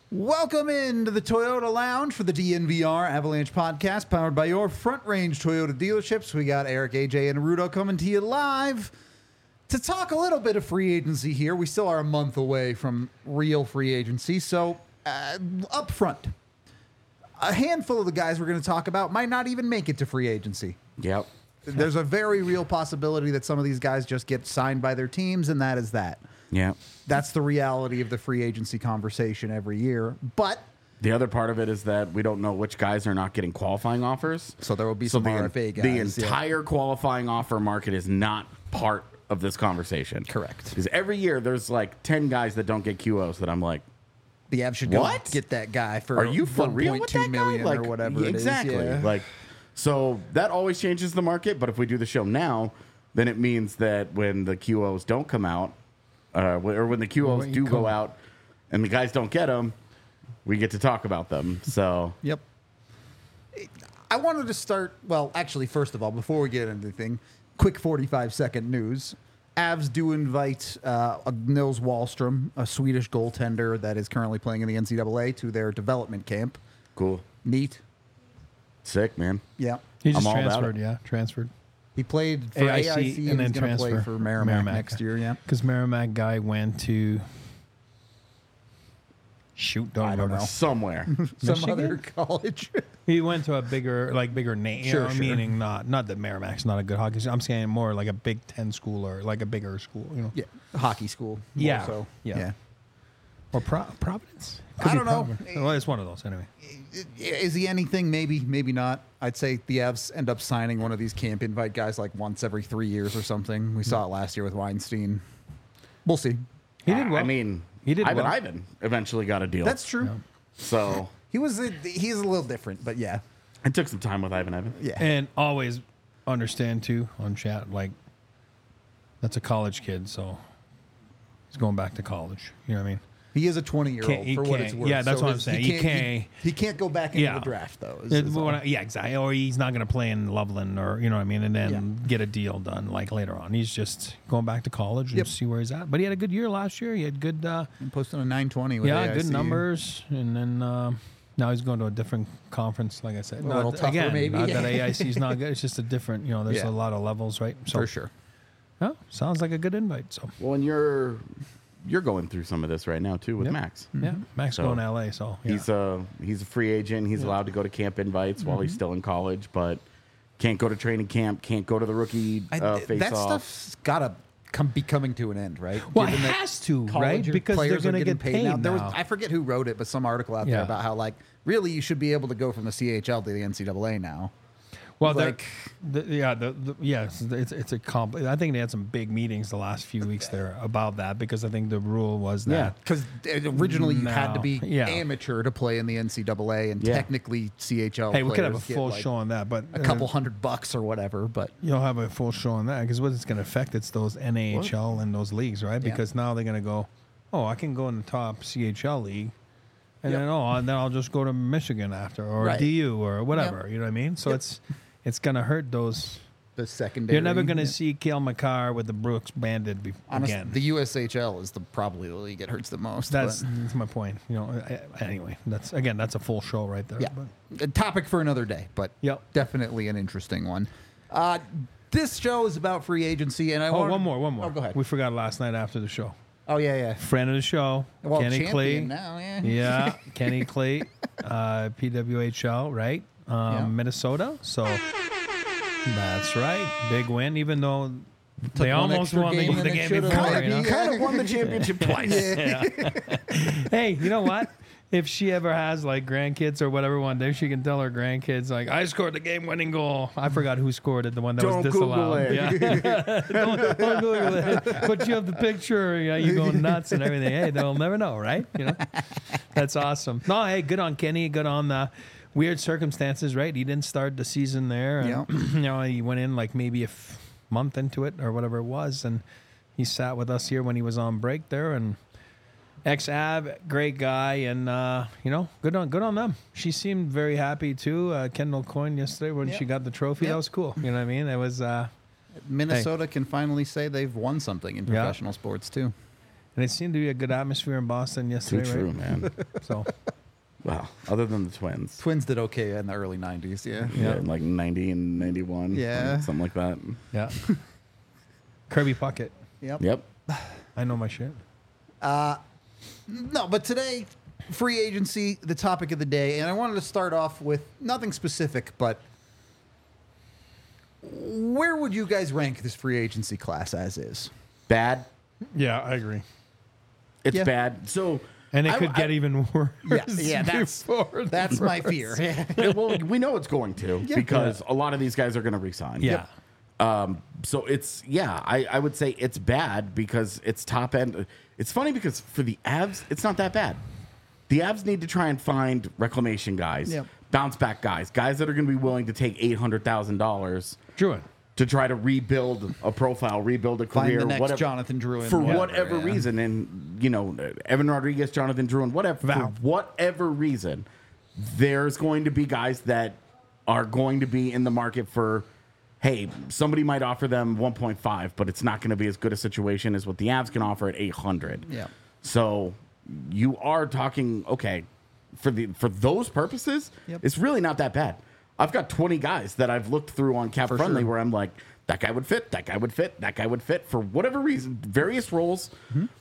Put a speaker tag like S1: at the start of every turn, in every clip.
S1: Welcome into the Toyota Lounge for the DNVR Avalanche podcast, powered by your Front Range Toyota dealerships. We got Eric, AJ, and Rudo coming to you live to talk a little bit of free agency here. We still are a month away from real free agency, so up front, a handful of the guys we're going to talk about might not even make it to free agency.
S2: Yep.
S1: There's a very real possibility that some of these guys just get signed by their teams, and that is that.
S2: Yeah.
S1: That's the reality of the free agency conversation every year. But
S2: the other part of it is that we don't know which guys are not getting qualifying offers.
S1: So there will be some RFA guys.
S2: The entire qualifying offer market is not part of this conversation.
S1: Correct.
S2: Because every year there's like 10 guys that don't get QOs that I'm like,
S1: the Avs should go
S2: what?
S1: Get that guy for
S2: are you for real with that
S1: 1.2 million
S2: guy?
S1: or whatever
S2: exactly.
S1: it is. Yeah.
S2: Like, so that always changes the market. But if we do the show now, then it means that when the QOs don't come out, or when the QOs do go out and the guys don't get them, we get to talk about them. So,
S1: yep. I wanted to start, well, actually, first of all, before we get into anything, quick 45-second news. Avs do invite Nils Wahlstrom, a Swedish goaltender that is currently playing in the NCAA, to their development camp.
S2: Cool.
S1: Neat.
S2: Sick, man.
S1: Yeah.
S3: He just
S2: I'm all about
S3: transferred,
S2: it.
S3: yeah, transferred.
S1: He played for AIC and
S3: then
S1: he's going to play
S3: transfer
S1: for Merrimack next year, yeah.
S3: Because Merrimack guy went to don't remember.
S2: Somewhere.
S1: Some
S3: Michigan?
S1: other college.
S3: He went to a bigger name.
S1: Sure.
S3: Meaning not that Merrimack's not a good hockey school. I'm saying more like a Big Ten school or like a bigger school, you know.
S1: Yeah, hockey school.
S3: Yeah.
S1: So,
S3: Yeah. Or Providence?
S1: I don't know.
S3: Well, it's one of those anyway.
S1: Is he anything? Maybe, maybe not. I'd say the Avs end up signing one of these camp invite guys like once every 3 years or something. We saw it last year with Weinstein. We'll see.
S3: He did well.
S2: I mean,
S3: He did well.
S2: Ivan eventually got a deal.
S1: That's true.
S3: Yeah.
S2: So
S1: He's a little different, but yeah.
S2: it took some time with Ivan.
S1: Yeah.
S3: And always understand too on chat, like that's a college kid, so he's going back to college. You know what I mean?
S1: He is a 20-year-old for what it's worth.
S3: Yeah, that's
S1: So
S3: what I'm saying.
S1: He can't go back into the draft, though.
S3: Yeah, exactly. Or he's not going to play in Loveland or, you know what I mean, and then get a deal done like later on. He's just going back to college and see where he's at. But he had a good year last year. He had good...
S1: posting a 920 with AIC.
S3: good numbers. And then now he's going to a different conference, like I said.
S1: A little tougher,
S3: again,
S1: maybe.
S3: Not that AIC's not good. It's just a different, there's a lot of levels, right? So,
S1: For sure.
S3: Oh, sounds like a good invite. So
S2: Well, and you're going through some of this right now too with Max.
S3: yeah, Max
S2: So,
S3: going to LA. So yeah.
S2: He's a free agent. He's allowed to go to camp invites while he's still in college, but can't go to training camp. Can't go to the rookie
S1: That
S2: face-off.
S1: stuff's got to be coming to an end, right?
S3: Well, it
S1: Given that
S3: has to, right?
S1: college
S3: Because they're
S1: players are
S3: going to
S1: getting
S3: get paid now.
S1: There was, I forget who wrote it, but some article out there about how, like, really you should be able to go from the CHL to the NCAA now.
S3: Well,
S1: like,
S3: yes, it's a I think they had some big meetings the last few weeks there about that because I think the rule was that
S1: because originally you had to be
S3: Yeah.
S1: amateur to play in the NCAA, and technically CHL.
S3: Hey, we could have a
S1: players get,
S3: full
S1: like,
S3: show on that, but
S1: a couple $100 or whatever. But
S3: you'll have a full show on that because what it's going to affect it's those NAHL and those leagues, right?
S1: Yeah.
S3: Because now they're going to go, oh, I can go in the top CHL league. And then I'll just go to Michigan after or DU or whatever. You know what I mean? So it's going to hurt those.
S1: The secondary.
S3: You're never going to see Cale Makar with the Brooks Bandit again.
S1: The USHL is probably the league it hurts the most.
S3: That's my point. Anyway, that's a full show right there.
S1: Yeah. A topic for another day, but definitely an interesting one. This show is about free agency, and
S3: one more.
S1: Oh, go ahead.
S3: We forgot last night after the show.
S1: Oh, yeah.
S3: Friend of the show,
S1: Well,
S3: Kenny Clay.
S1: now,
S3: Yeah, Kenny Clay, PWHL, right? Minnesota. So that's right. Big win, even though they almost won the game before.
S2: Kind of won the championship twice.
S3: Hey, you know what? If she ever has like grandkids or whatever one day, she can tell her grandkids like, "I scored the game-winning goal." I forgot who scored it. The one that was disallowed.
S2: Google it.
S3: Yeah, don't Google it. But you have the picture. Yeah, you go nuts and everything. Hey, they'll never know, right? That's awesome. No, hey, good on Kenny. Good on the weird circumstances, right? He didn't start the season there. And, he went in like maybe a month into it or whatever it was, and he sat with us here when he was on break there and. Ex-Av, great guy, and good on them. She seemed very happy too. Kendall Coyne yesterday when she got the trophy, that was cool. You know what I mean? It was.
S1: Minnesota can finally say they've won something in professional sports too.
S3: And it seemed to be a good atmosphere in Boston
S2: Too
S3: yesterday,
S2: true,
S3: right?
S2: man.
S3: So,
S2: Wow. Other than the Twins.
S1: Twins did okay in the early 90s, yeah.
S2: Yeah, in like 90 and 91.
S1: Yeah.
S2: like something like that.
S3: yeah. Kirby Puckett.
S2: Yep.
S3: I know my shit.
S1: No, but today, free agency, the topic of the day, and I wanted to start off with nothing specific, but where would you guys rank this free agency class as is?
S2: Bad.
S3: Yeah, I agree.
S2: It's
S1: Yeah.
S2: bad. So.
S3: And it could get even worse.
S1: Yeah, that's my fear.
S2: Well, we know it's going to because a lot of these guys are going to resign.
S3: Yeah.
S2: So it's I would say it's bad because it's top end. It's funny because for the Avs, it's not that bad. The Avs need to try and find reclamation guys,
S1: Yep.
S2: bounce back guys that are going to be willing to take $800,000
S3: Druin.
S2: to try to rebuild a profile, rebuild a
S1: Find
S2: career,
S1: the next
S2: whatever,
S1: Jonathan Drouin.
S2: for whatever reason. And Evan Rodriguez, Jonathan Drouin, whatever, for whatever reason, there's going to be guys that are going to be in the market for. Hey, somebody might offer them 1.5, but it's not going to be as good a situation as what the Avs can offer at 800.
S1: Yeah.
S2: So you are talking for those purposes.
S1: Yep.
S2: It's really not that bad. I've got 20 guys that I've looked through on Cap Friendly where I'm like, that guy would fit, that guy would fit, that guy would fit for whatever reason, various roles.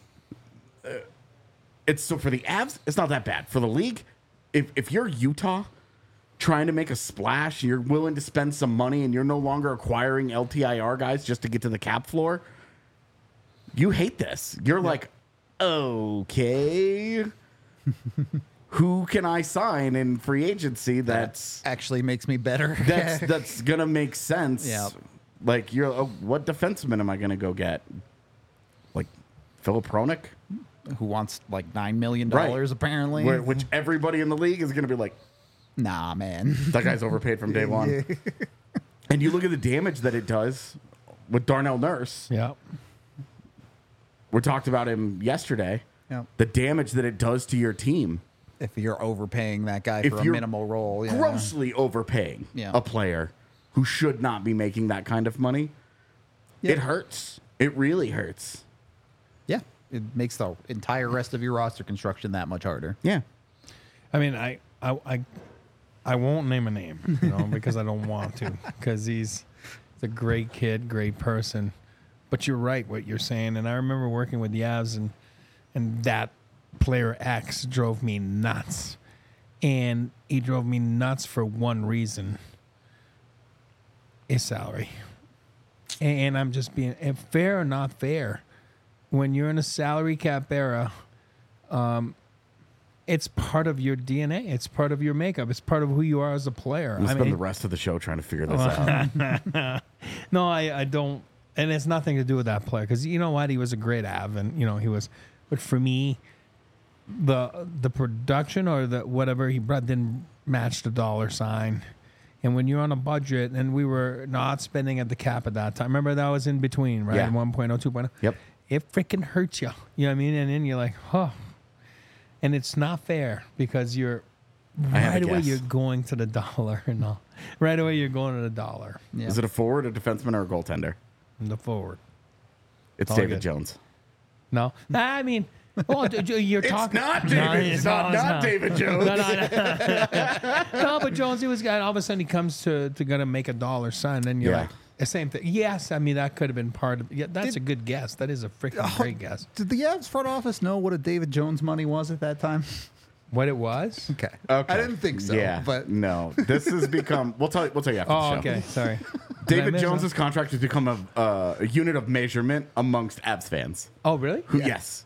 S2: It's so for the Avs, it's not that bad. For the league, if you're Utah trying to make a splash, you're willing to spend some money and you're no longer acquiring LTIR guys just to get to the cap floor, you hate this. You're like, okay, who can I sign in free agency that's
S1: actually makes me better.
S2: that's gonna make sense?
S1: Yeah.
S2: Like what defenseman am I gonna go get? Like Philip Hronik,
S1: Who wants like $9 million
S2: Right.
S1: apparently.
S2: which everybody in the league is gonna be like,
S1: Nah, man.
S2: that guy's overpaid from day one. And you look at the damage that it does with Darnell Nurse.
S3: Yeah.
S2: We talked about him yesterday.
S1: Yeah.
S2: The damage that it does to your team.
S1: If you're overpaying that guy
S2: If
S1: for a
S2: you're
S1: minimal role. Yeah.
S2: Grossly overpaying a player who should not be making that kind of money.
S1: Yeah.
S2: It hurts. It really hurts.
S1: Yeah. It makes the entire rest of your roster construction that much harder.
S2: Yeah.
S3: I mean, I won't name a name, because I don't want to, because he's a great kid, great person. But you're right what you're saying, and I remember working with the Avs, and that player X drove me nuts, and he drove me nuts for one reason: his salary. And I'm just being fair or not fair. When you're in a salary cap era, it's part of your DNA. It's part of your makeup. It's part of who you are as a player.
S2: We'll spend the rest of the show trying to figure this out.
S3: No, I don't. And it's nothing to do with that player. Because you know what? He was a great Av. And, he was. But for me, the production or the whatever he brought didn't match the dollar sign. And when you're on a budget, and we were not spending at the cap at that time. Remember, that was in between, right?
S2: Yeah.
S3: 1.0, 2.0.
S2: Yep.
S3: It freaking hurts you. You know what I mean? And then you're like, oh. And it's not fair because you're right away you're going to the dollar. No, right away you're going to the dollar.
S1: Yeah.
S2: Is it a forward, a defenseman, or a goaltender?
S3: The forward.
S2: It's
S3: All
S2: David
S3: good.
S2: Jones.
S3: No, I mean, well, you're talking.
S2: It's not David.
S3: No,
S2: it's not David Jones.
S3: No, but Jones, he was guy. All of a sudden, he comes to gonna make a dollar sign, and you're
S2: Yeah.
S3: like, the same thing. Yes, I mean that could have been part of. Yeah, that's a good guess. That is a freaking great guess.
S1: Did the Avs front office know what a David Jones money was at that time?
S3: What it was?
S1: Okay.
S2: Okay.
S1: I didn't think so.
S2: Yeah,
S1: But
S2: no. This has become. We'll tell you after the
S3: Oh,
S2: show.
S3: okay. Sorry.
S2: David
S3: miss
S2: Jones's contract has become a unit of measurement amongst Avs fans.
S3: Oh, really?
S2: Who? Yes.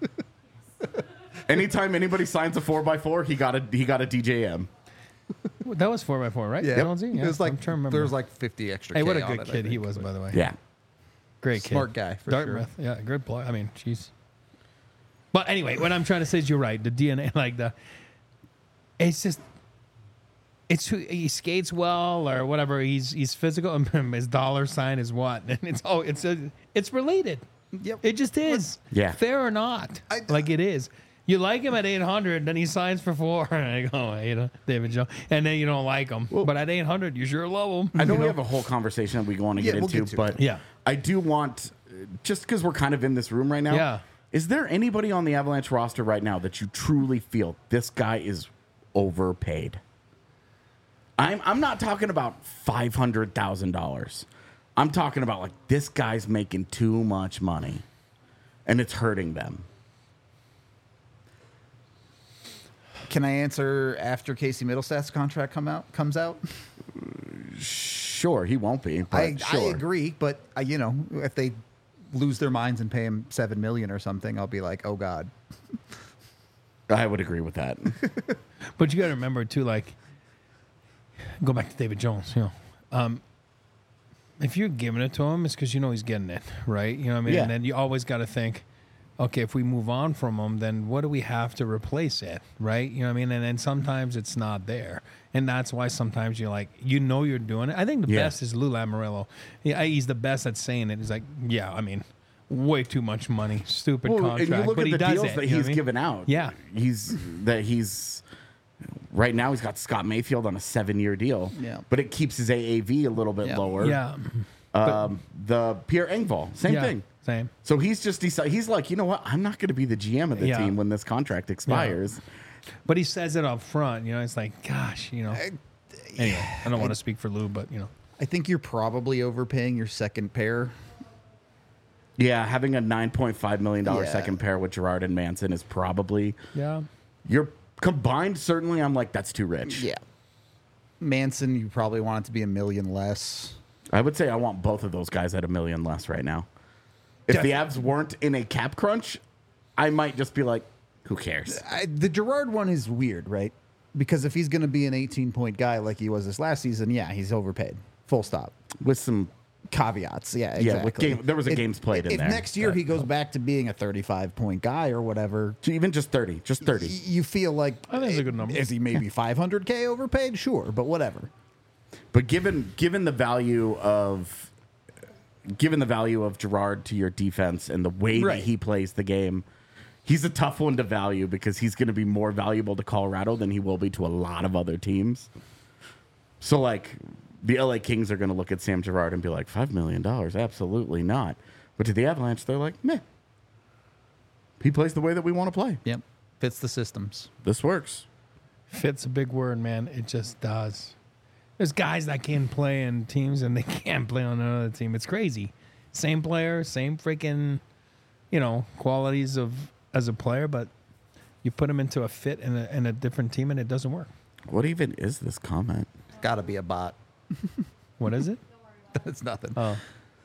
S2: Anytime anybody signs a 4x4, he got a DJM.
S3: That was 4x4, right?
S1: yeah,
S3: Jonesy?
S1: it was like
S3: I'm trying to remember.
S1: there was like 50 extra.
S3: Hey, what a
S1: K on
S3: good
S1: it, I
S3: kid he
S1: think,
S3: was,
S1: but-
S3: by the way.
S2: Yeah.
S3: Great kid.
S1: Smart guy, for
S3: Dartmouth. Yeah, good player. I mean, jeez. But anyway, what I'm trying to say is you're right. The DNA, it's just, it's who he skates well or whatever. He's physical. His dollar sign is what, and it's related.
S1: Yep.
S3: It just is.
S2: Yeah.
S3: Fair or not, it is. You like him at 800, then he signs for 4. And I go, hey, David Jones, and then you don't like him. But at 800, you sure love him.
S2: I know we have a whole conversation that we want to get
S1: we'll
S2: into,
S1: get to
S2: but
S1: it.
S3: Yeah.
S2: I do want, just because we're kind of in this room right now,
S3: Yeah.
S2: Is there anybody on the Avalanche roster right now that you truly feel this guy is overpaid? I'm not talking about $500,000. I'm talking about like this guy's making too much money, and it's hurting them.
S1: Can I answer after Casey Middlestad's contract comes out?
S2: Sure, he won't be. But
S1: I
S2: sure.
S1: agree, but if they lose their minds and pay him $7 million or something, I'll be like, oh God.
S2: I would agree with that.
S3: But you got to remember too, like, go back to David Jones. If you're giving it to him, it's because you know he's getting it, right? You know what I mean?
S2: Yeah.
S3: And then you always got to think, okay, if we move on from him, then what do we have to replace it, right? You know what I mean? And then sometimes it's not there. And that's why sometimes you're like, you're doing it. I think the best is Lou Lamoriello. He's the best at saying it. He's like, yeah, I mean, way too much money, stupid contract.
S2: And you look
S3: but
S2: at
S3: he
S2: the
S3: does
S2: deals
S3: it,
S2: that
S3: you know
S2: he's
S3: what I mean?
S2: given out.
S3: Yeah.
S2: He's right now he's got Scott Mayfield on a 7-year deal.
S1: Yeah.
S2: But it keeps his AAV a little bit lower.
S3: Yeah.
S2: The Pierre Engvall, same thing.
S3: Same.
S2: So he's just decided, he's like, you know what? I'm not going to be the GM of the
S3: Yeah.
S2: team when this contract expires.
S3: But he says it up front, it's like, gosh, Anyway, I don't want to speak for Lou, but
S1: I think you're probably overpaying your second pair.
S2: Yeah, having a $9.5 million
S1: Yeah.
S2: second pair with Gerard and Manson is probably
S3: yeah.
S2: you're combined. Certainly, I'm like, that's too rich.
S1: Yeah. Manson, you probably want it to be $1 million less.
S2: I would say I want both of those guys at $1 million less right now. If the Avs weren't in a cap crunch, I might just be like, who cares?
S1: The Gerard one is weird, right? Because if he's going to be an 18-point guy like he was this last season, yeah, he's overpaid. Full stop.
S2: With some
S1: Caveats, yeah, exactly.
S2: Yeah, with there was a games played in
S1: if
S2: there.
S1: If next year he goes back to being a 35-point guy or whatever,
S2: even just 30,
S1: you feel like
S3: I think it's a good number.
S1: Is he maybe $500K overpaid? Sure, but whatever.
S2: But given the value of Gerard to your defense and the way that he plays the game, he's a tough one to value because he's going to be more valuable to Colorado than he will be to a lot of other teams. So, like, the LA Kings are going to look at Sam Girard and be like, $5 million? Absolutely not. But to the Avalanche, they're like, meh. He plays the way that we want to play.
S1: Yep. Fits the systems.
S2: This works.
S3: Fit's a big word, man. It just does. There's guys that can play in teams and they can't play on another team. It's crazy. Same player, same freaking, qualities as a player, but you put them into a fit in a different team and it doesn't work.
S2: What even is this comment?
S1: Got to be a bot.
S3: What is it?
S1: It's nothing.
S3: Oh,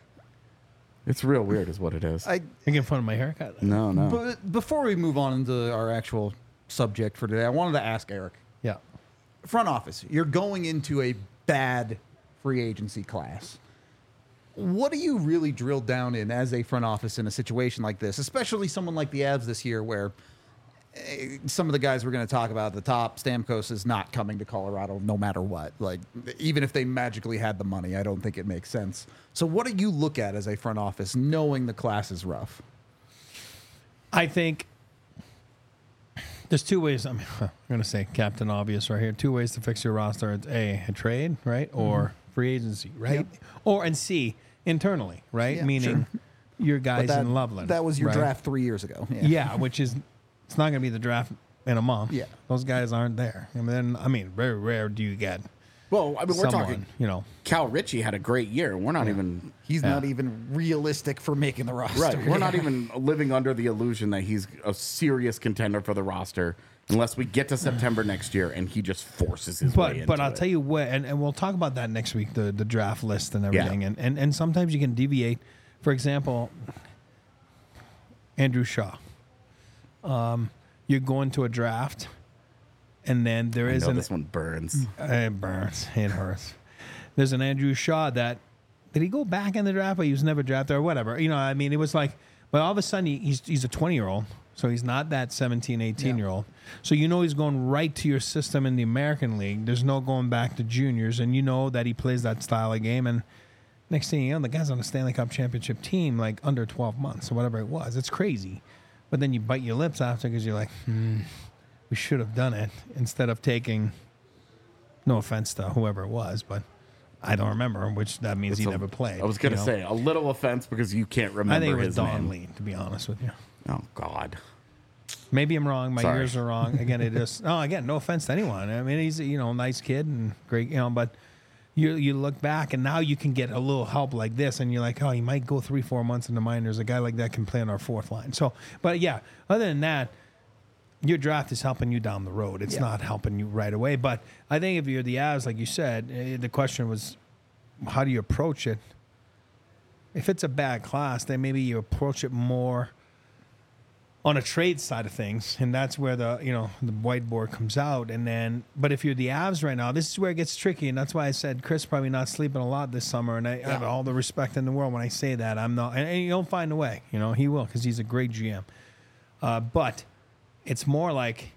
S2: It's real weird is what it is.
S3: you're getting fun of my haircut.
S2: No.
S1: But before we move on into our actual subject for today, I wanted to ask Eric.
S3: Yeah.
S1: Front office, you're going into a bad free agency class. What do you really drill down in as a front office in a situation like this, especially someone like the Avs this year where some of the guys we're going to talk about at the top, Stamkos is not coming to Colorado no matter what. Like, even if they magically had the money, I don't think it makes sense. So what do you look at as a front office knowing the class is rough?
S3: I think there's two ways. I'm going to say Captain Obvious right here. Two ways to fix your roster. It's A, a trade, right? Or free agency, right? Or, and C, internally, right?
S1: Yeah,
S3: Meaning your guys in Loveland.
S1: That was your
S3: right?
S1: draft 3 years ago.
S3: Yeah, which is, it's not going to be the draft in a month.
S1: Yeah.
S3: Those guys aren't there. Very rare do you get
S2: Well, I mean, we're
S3: someone,
S2: talking, Cal Ritchie had a great year. We're not even...
S1: He's not even realistic for making the roster.
S2: Right. We're not even living under the illusion that he's a serious contender for the roster unless we get to September next year and he just forces his way into
S3: But I'll
S2: it.
S3: tell you what, and we'll talk about that next week, the draft list and everything.
S2: Yeah.
S3: And sometimes you can deviate. For example, Andrew Shaw. You're going to a draft, and then there is
S2: this one burns.
S3: It burns. It hurts. There's an Andrew Shaw that did he go back in the draft, but he was never drafted or whatever. It was like, but all of a sudden he's a 20-year-old, so he's not that 17, 18-year-old. So he's going right to your system in the American League. There's no going back to juniors, and you know that he plays that style of game. And next thing you know, the guy's on a Stanley Cup championship team like under 12 months or whatever it was. It's crazy. But then you bite your lips after because you're like, we should have done it instead of taking, no offense to whoever it was, but I don't remember, which that means he never played.
S2: I was going to say a little offense because you can't remember
S3: I think it was
S2: his
S3: Don
S2: name.
S3: Lee, to be honest with you.
S2: Oh, God.
S3: Maybe I'm wrong. My
S2: Sorry.
S3: ears are wrong. Again, no offense to anyone. I mean, he's a nice kid and great, but you look back and now you can get a little help like this, and you're like, oh, you might go 3-4 months in the minors. A guy like that can play on our fourth line. So, but yeah, other than that, your draft is helping you down the road. It's not helping you right away. But I think if you're the Avs, like you said, the question was, how do you approach it? If it's a bad class, then maybe you approach it more on a trade side of things, and that's where the whiteboard comes out. And then, but if you're the Avs right now, this is where it gets tricky, and that's why I said Chris probably not sleeping a lot this summer. And I have all the respect in the world when I say that. I'm not, and he'll find a way. He will, because he's a great GM. But it's more like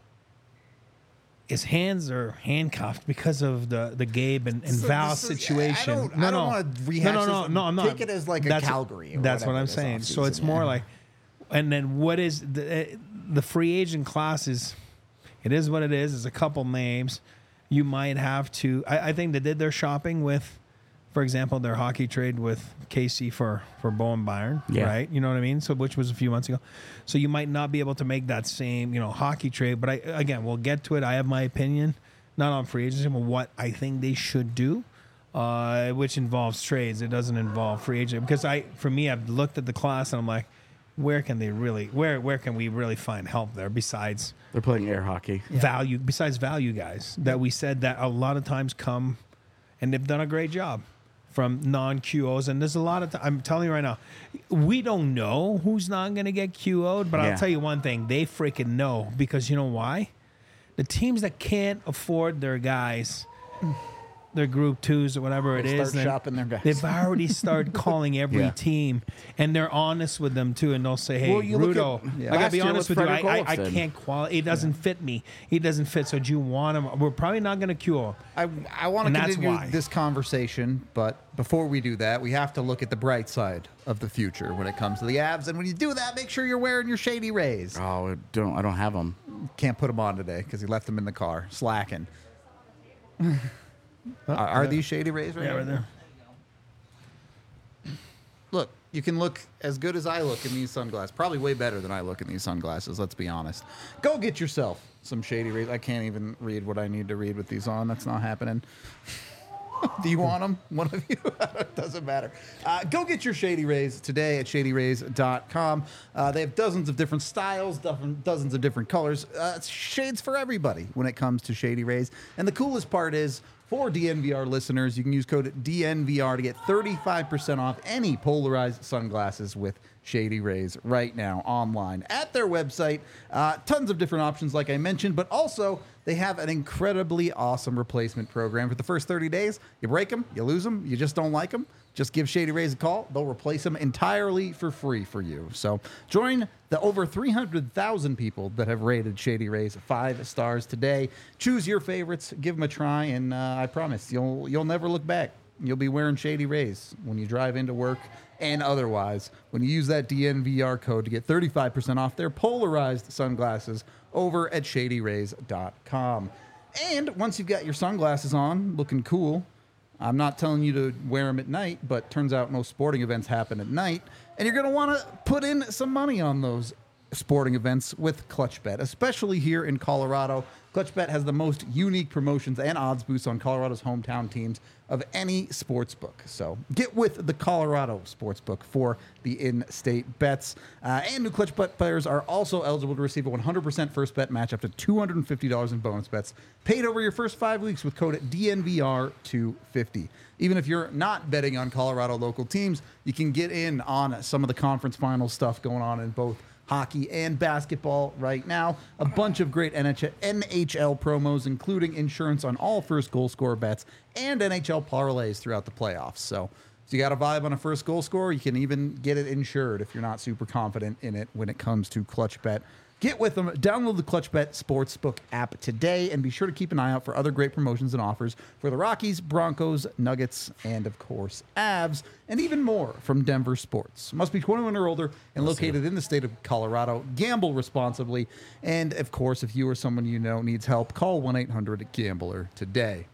S3: his hands are handcuffed because of the Gabe and Val situation.
S1: I don't want to rehash this.
S3: No, I'm not.
S1: Take it as like a Calgary.
S3: That's what I'm saying. So it's more like, and then what is the free agent class is, it is what it is. It's a couple names. You might have to, I think they did their shopping with, for example, their hockey trade with Casey for Bowen Byron, right? You know what I mean? So, which was a few months ago. So you might not be able to make that same, hockey trade. But again, we'll get to it. I have my opinion, not on free agency, but what I think they should do, which involves trades. It doesn't involve free agent, because for me, I've looked at the class and I'm like, where can we really find help there besides
S2: They're playing air hockey.
S3: value? Besides value guys that we said that a lot of times come, and they've done a great job from non-QOs. And there's a lot of I'm telling you right now, we don't know who's not going to get QO'd, but I'll tell you one thing, they freaking know, because you know why? The teams that can't afford their guys, their group twos or whatever it is,
S1: start shopping their guys.
S3: they've already started calling every team, and they're honest with them too, and they'll say, hey, Rudo, I gotta be honest with you, I can't qualify. It doesn't fit me. He doesn't fit, so do you want him? We're probably not going to cure him.
S1: I want to continue
S3: why.
S1: this conversation, but before we do that, we have to look at the bright side of the future when it comes to the Avs. And when you do that, make sure you're wearing your Shady Rays.
S2: Oh, I don't have them.
S1: Can't put them on today because he left them in the car, slacking. Are these Shady Rays right
S3: Yeah, right there.
S1: Look, you can look as good as I look in these sunglasses. Probably way better than I look in these sunglasses, let's be honest. Go get yourself some Shady Rays. I can't even read what I need to read with these on. That's not happening. Do you want them? One of you? It doesn't matter. Go get your Shady Rays today at shadyrays.com. They have dozens of different styles, dozens of different colors. It's shades for everybody when it comes to Shady Rays. And the coolest part is, for DNVR listeners, you can use code DNVR to get 35% off any polarized sunglasses with Shady Rays right now online at their website. Tons of different options, like I mentioned, but also they have an incredibly awesome replacement program. For the first 30 days, you break them, you lose them, you just don't like them, just give Shady Rays a call. They'll replace them entirely for free for you. So join the over 300,000 people that have rated Shady Rays 5 stars today. Choose your favorites, give them a try, and I promise you'll never look back. You'll be wearing Shady Rays when you drive into work and otherwise when you use that DNVR code to get 35% off their polarized sunglasses over at shadyrays.com. And once you've got your sunglasses on, looking cool, I'm not telling you to wear them at night, but turns out most sporting events happen at night, and you're going to want to put in some money on those sporting events with ClutchBet, especially here in Colorado. ClutchBet has the most unique promotions and odds boosts on Colorado's hometown teams of any sports book. So get with the Colorado Sportsbook for the in-state bets. And new ClutchBet players are also eligible to receive a 100% first bet match up to $250 in bonus bets paid over your first 5 weeks with code DNVR250. Even if you're not betting on Colorado local teams, you can get in on some of the conference final stuff going on in both hockey and basketball right now. A bunch of great NHL promos, including insurance on all first goal scorer bets and NHL parlays throughout the playoffs. So if you got a vibe on a first goal scorer, you can even get it insured if you're not super confident in it when it comes to ClutchBet. Get with them. Download the ClutchBet Sportsbook app today and be sure to keep an eye out for other great promotions and offers for the Rockies, Broncos, Nuggets, and of course, Avs, and even more from Denver Sports. Must be 21 or older and located in the state of Colorado. Gamble responsibly. And of course, if you or someone you know needs help, call 1-800-GAMBLER today.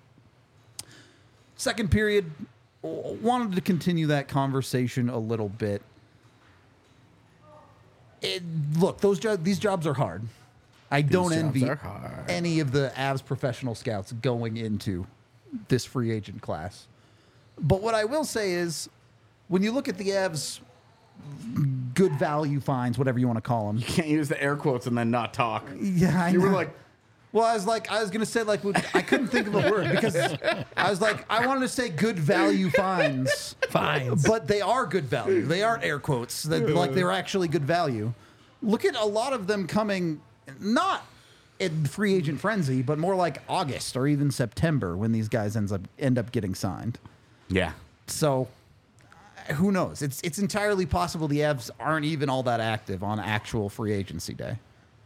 S1: Second period, wanted to continue that conversation a little bit. Look, these jobs are hard. I don't
S2: jobs
S1: envy
S2: are hard.
S1: any of the Avs professional scouts going into this free agent class. But what I will say is, when you look at the Avs good value finds, whatever you want to call them.
S2: You can't use the air quotes and then not talk.
S1: Yeah, I
S2: You were
S1: know.
S2: like,
S1: Well, I was going to say, like, I couldn't think of a word because I was like, I wanted to say good value finds.
S3: Fines.
S1: But they are good value. They aren't air quotes. Like, they're actually good value. Look at a lot of them coming, not in free agent frenzy, but more like August or even September when these guys end up getting signed.
S2: yeah.
S1: So, who knows? It's entirely possible the Avs aren't even all that active on actual free agency day.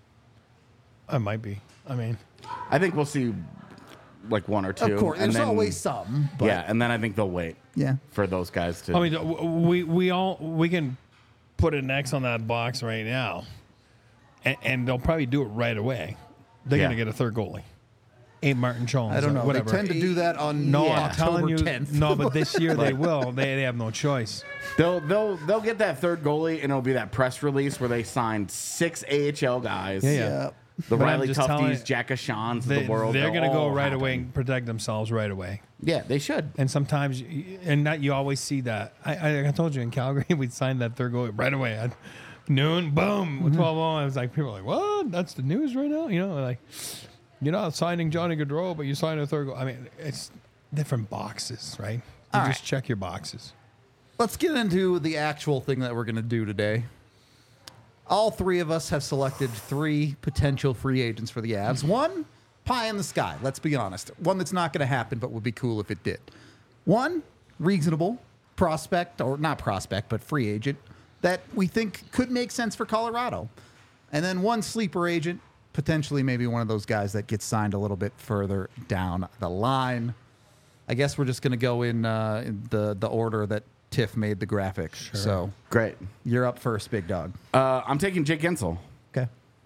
S3: I might be. I mean,
S2: I think we'll see like one or two.
S1: Of course,
S2: and
S1: there's
S2: then,
S1: always some. But
S2: yeah, and then I think they'll wait
S1: yeah.
S2: for those guys to.
S3: I mean, we can put an X on that box right now, and they'll probably do it right away. They're
S2: Yeah.
S3: gonna get a third goalie. Ain't Martin Jones.
S1: I don't
S3: or
S1: know.
S3: Whatever.
S1: They tend to do that on
S3: No,
S2: Yeah.
S3: I'm telling you.
S1: October 10th.
S3: No, but this year they will. They have no choice.
S2: They'll get that third goalie, and it'll be that press release where they signed 6 AHL guys.
S3: Yeah.
S1: Yeah.
S2: The
S3: But I'm
S2: Riley
S3: just telling you,
S2: Tufties, Jack Ashans of the world.
S3: They're going to go
S2: all
S3: right
S2: happen.
S3: away and protect themselves right away.
S2: Yeah, they should.
S3: And sometimes, and that you always see that. I told you in Calgary, we signed that third goalie right away. At noon, boom, 12 I was like, people are like, what? That's the news right now? You know, like, you're not signing Johnny Gaudreau, but you signed a third goal. I mean, it's different boxes, right? You
S1: All
S3: just
S1: right.
S3: check your boxes.
S1: Let's get into the actual thing that we're going to do today. All three of us have selected 3 potential free agents for the Avs. One, pie in the sky, let's be honest. One that's not going to happen, but would be cool if it did. One, reasonable prospect, or not prospect, but free agent that we think could make sense for Colorado. And then one sleeper agent, potentially maybe one of those guys that gets signed a little bit further down the line. I guess we're just going to go in the order that Tiff made the graphic.
S3: Sure.
S1: So
S2: Great.
S1: you're up first, big dog.
S2: I'm taking Jake Gensel.
S1: Okay.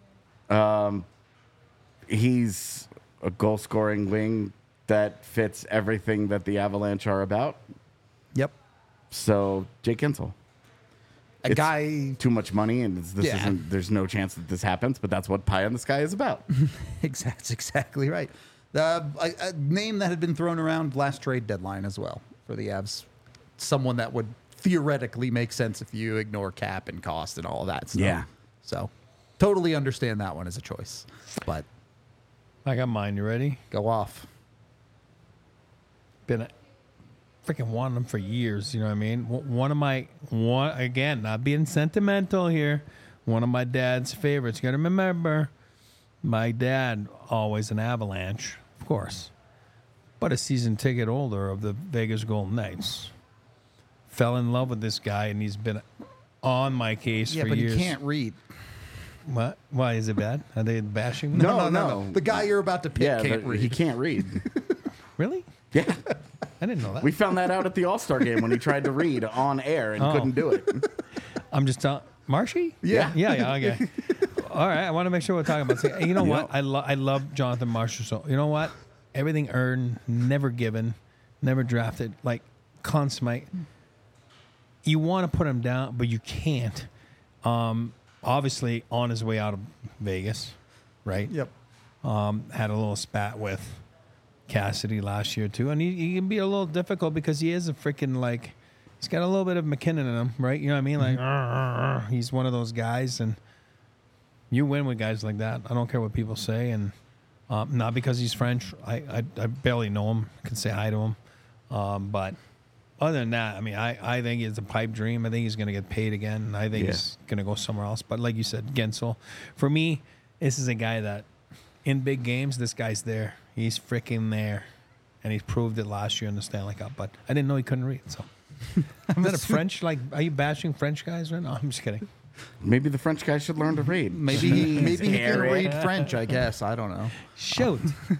S2: He's a goal-scoring wing that fits everything that the Avalanche are about.
S1: Yep.
S2: So Jake Gensel.
S1: A
S2: It's
S1: guy.
S2: Too much money, and this
S1: Yeah.
S2: isn't. There's no chance that this happens, but that's what Pie in the Sky is about.
S1: That's exactly right. A name that had been thrown around last trade deadline as well for the Avs. Someone that would theoretically make sense if you ignore cap and cost and all of that stuff.
S2: Yeah.
S1: So totally understand that one as a choice. But
S3: I got mine. You ready?
S1: go off.
S3: Been freaking wanting them for years. You know what I mean? One again, not being sentimental here. One of my dad's favorites. You got to remember, my dad always an Avalanche, of course, but a season ticket holder of the Vegas Golden Knights. Fell in love with this guy, and he's been on my case
S1: Yeah,
S3: for
S1: but
S3: years.
S1: he can't read.
S3: What? Why is it bad? Are they bashing me?
S2: No.
S1: The guy you're about to pick
S2: Yeah,
S1: can't read.
S2: he can't read.
S3: Really?
S2: Yeah,
S3: I didn't know that.
S2: we found that out at the All-Star game when he tried to read on air and
S3: Oh.
S2: couldn't do it.
S3: I'm just telling. Marshy?
S1: Yeah.
S3: Yeah, okay. All right, I want to make sure we're talking about. You know what?
S2: Yep.
S3: I love Jonathan Marshall. So you know what? Everything earned, never given, never drafted. Like consummate. You want to put him down, but you can't. Obviously, on his way out of Vegas, right?
S1: Yep.
S3: Had a little spat with Cassidy last year too, and he can be a little difficult because he is a freaking like. He's got a little bit of McKinnon in him, right? You know what I mean? Like, he's one of those guys, and you win with guys like that. I don't care what people say, and not because he's French. I barely know him. I can say hi to him, but other than that, I mean, I think it's a pipe dream. I think he's going to get paid again, and I think he's going to go somewhere else. But like you said, Gensel, for me, this is a guy that in big games, this guy's there. He's freaking there, and he proved it last year in the Stanley Cup. But I didn't know he couldn't read, so. Is that a French? Like, are you bashing French guys right now? I'm just kidding.
S2: Maybe the French guy should learn to read.
S1: Maybe he can
S2: Harry.
S1: read French, I guess. I don't know.
S3: Shoot.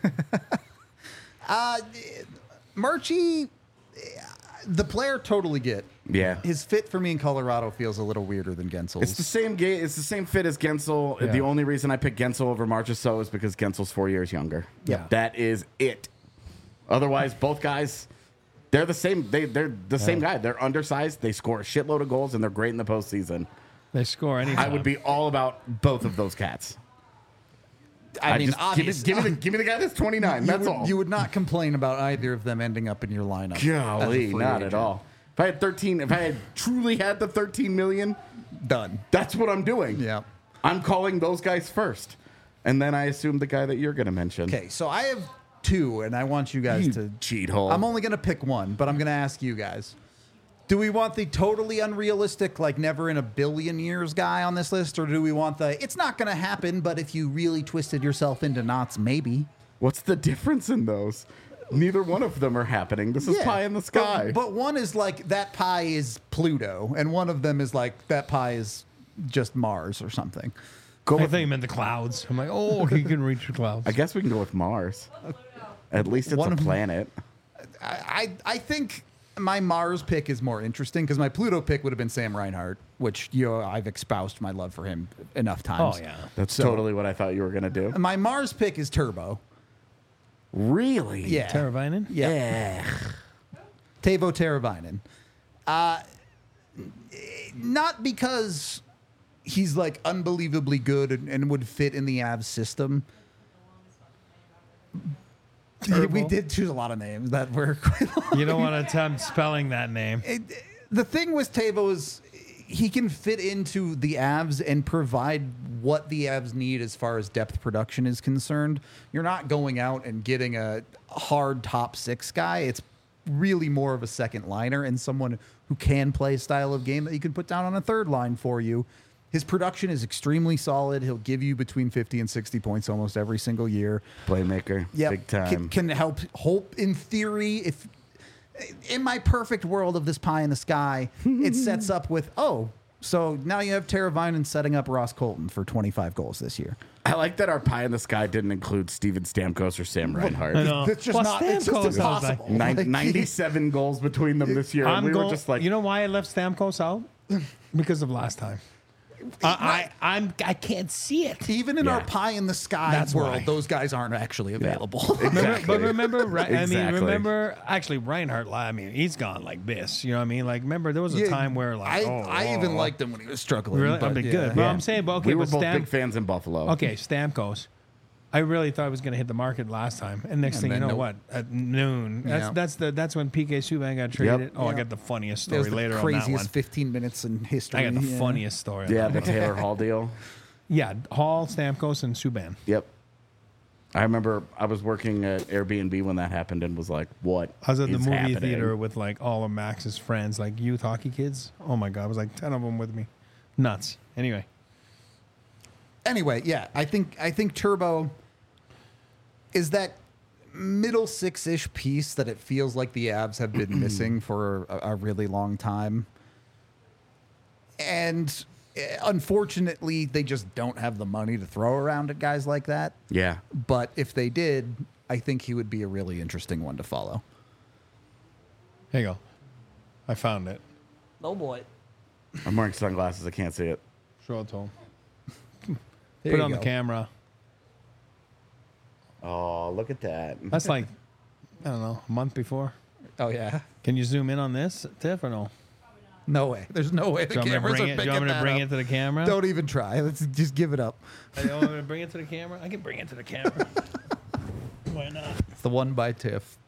S1: Murchie, the player totally get.
S2: Yeah.
S1: His fit for me in Colorado feels a little weirder than Gensel's.
S2: It's the same game. It's the same fit as Gensel.
S3: Yeah.
S2: The only reason I picked Gensel over Marchessault is because Gensel's 4 years younger.
S3: Yeah.
S2: That is it. Otherwise, both guys, they're the same. They're the same guy. They're undersized. They score a shitload of goals, and they're great in the postseason.
S3: They score anytime.
S2: I would be all about both of those cats.
S1: I mean,
S2: just
S1: obviously,
S2: give me the guy that's 29. That's all.
S1: You would not complain about either of them ending up in your lineup. as a
S2: Golly,
S1: free
S2: not
S1: agent.
S2: at all. If I had truly had the 13 million,
S1: Done.
S2: that's what I'm doing.
S1: Yeah.
S2: I'm calling those guys first. And then I assume the guy that you're going to mention.
S1: Okay, so I have two, and I want you guys to
S2: cheat hole.
S1: I'm only going to pick one, but I'm going to ask you guys. Do we want the totally unrealistic, like never in a billion years guy on this list, or do we want the it's not going to happen, but if you really twisted yourself into knots, maybe?
S2: What's the difference in those? Neither one of them are happening. This is pie in the sky.
S1: But one is like that pie is Pluto, and one of them is like that pie is just Mars or something.
S3: I think you meant the clouds. I'm like, oh, he can reach the clouds.
S2: I guess we can go with Mars. At least it's
S1: One
S2: a
S1: of them-
S2: planet.
S1: I think my Mars pick is more interesting because my Pluto pick would have been Sam Reinhart, which I've espoused my love for him enough times.
S3: Oh, yeah.
S2: That's totally what I thought you were going to do.
S1: My Mars pick is Turbo.
S2: Really?
S1: Yeah.
S3: Teravainen?
S1: Yeah. Teuvo Teravainen. Not because he's like unbelievably good and would fit in the Avs system. We did choose a lot of names that were quite long.
S3: You don't want to attempt spelling that name.
S1: The thing with Teuvo is he can fit into the Avs and provide what the Avs need as far as depth production is concerned. You're not going out and getting a hard top six guy. It's really more of a second liner and someone who can play a style of game that you can put down on a third line for you. His production is extremely solid. He'll give you between 50 and 60 points almost every single year.
S2: Playmaker.
S1: Yep.
S2: Big time.
S1: Can help in theory. If in my perfect world of this pie in the sky, it sets up with so now you have Teravainen setting up Ross Colton for 25 goals this year.
S2: I like that our pie in the sky didn't include Steven Stamkos or Sam Reinhart.
S3: I know.
S1: It's just
S3: Well,
S1: not. It's just
S3: Stamkos, I was like,
S1: impossible.
S2: 97 goals between them this year. And we were just like,
S3: you know why I left Stamkos out? Because of last time. I can't see it.
S1: Even in
S2: Yeah.
S1: our pie in the sky
S3: That's
S1: world,
S3: why.
S1: those guys aren't actually available.
S2: exactly.
S3: But remember,
S2: Exactly.
S3: remember, actually, Reinhardt, he's gone like this. You know what I mean? Like, remember, there was a time where, like,
S1: I even liked him when he was struggling.
S3: Really?
S1: but
S3: I'd be
S1: yeah.
S3: good. Well, I'm saying, but okay,
S2: we were
S3: but
S2: both big fans in Buffalo.
S3: Okay, Stamkos. I really thought I was going to hit the market last time, and next thing you
S1: then
S3: know,
S1: nope.
S3: what? At noon.
S1: Yeah.
S3: that's when PK Subban got traded. Oh, I
S1: Yeah.
S3: got the funniest
S1: It
S3: story
S1: was the
S3: later on that one.
S1: craziest 15 minutes in history.
S3: I got the
S1: Yeah.
S3: funniest story. on
S2: Yeah,
S3: that
S2: the
S3: one.
S2: Taylor Hall deal.
S3: Yeah, Hall, Stamkos, and Subban.
S2: Yep. I remember I was working at Airbnb when that happened and was like, what
S3: I was at the
S2: is
S3: movie
S2: happening?
S3: theater with like all of Max's friends, like youth hockey kids. Oh my god, it was like 10 of them with me. Nuts. Anyway,
S1: Yeah, I think Turbo is that middle six-ish piece that it feels like the Avs have been missing for a really long time. And unfortunately, they just don't have the money to throw around at guys like that.
S2: Yeah.
S1: But if they did, I think he would be a really interesting one to follow.
S3: here you go. I found it.
S1: Oh, boy.
S2: I'm wearing sunglasses. I can't see it.
S3: Show it to him.
S1: There
S3: Put it
S1: you
S3: on the
S1: go.
S3: camera.
S2: Oh, look at that.
S3: That's like, I don't know, a month before.
S1: Oh, yeah.
S3: Can you zoom in on this, Tiff, or no?
S1: No way. There's no way the
S3: Do you want me to
S1: cameras
S3: bring
S1: are
S3: it? Do
S1: picking
S3: you want me to
S1: that
S3: bring
S1: up.
S3: it to the camera?
S1: Don't even try. Let's just give it up.
S3: You want me to bring it to the camera? I can bring it to the camera. Why not?
S1: It's the one by Tiff.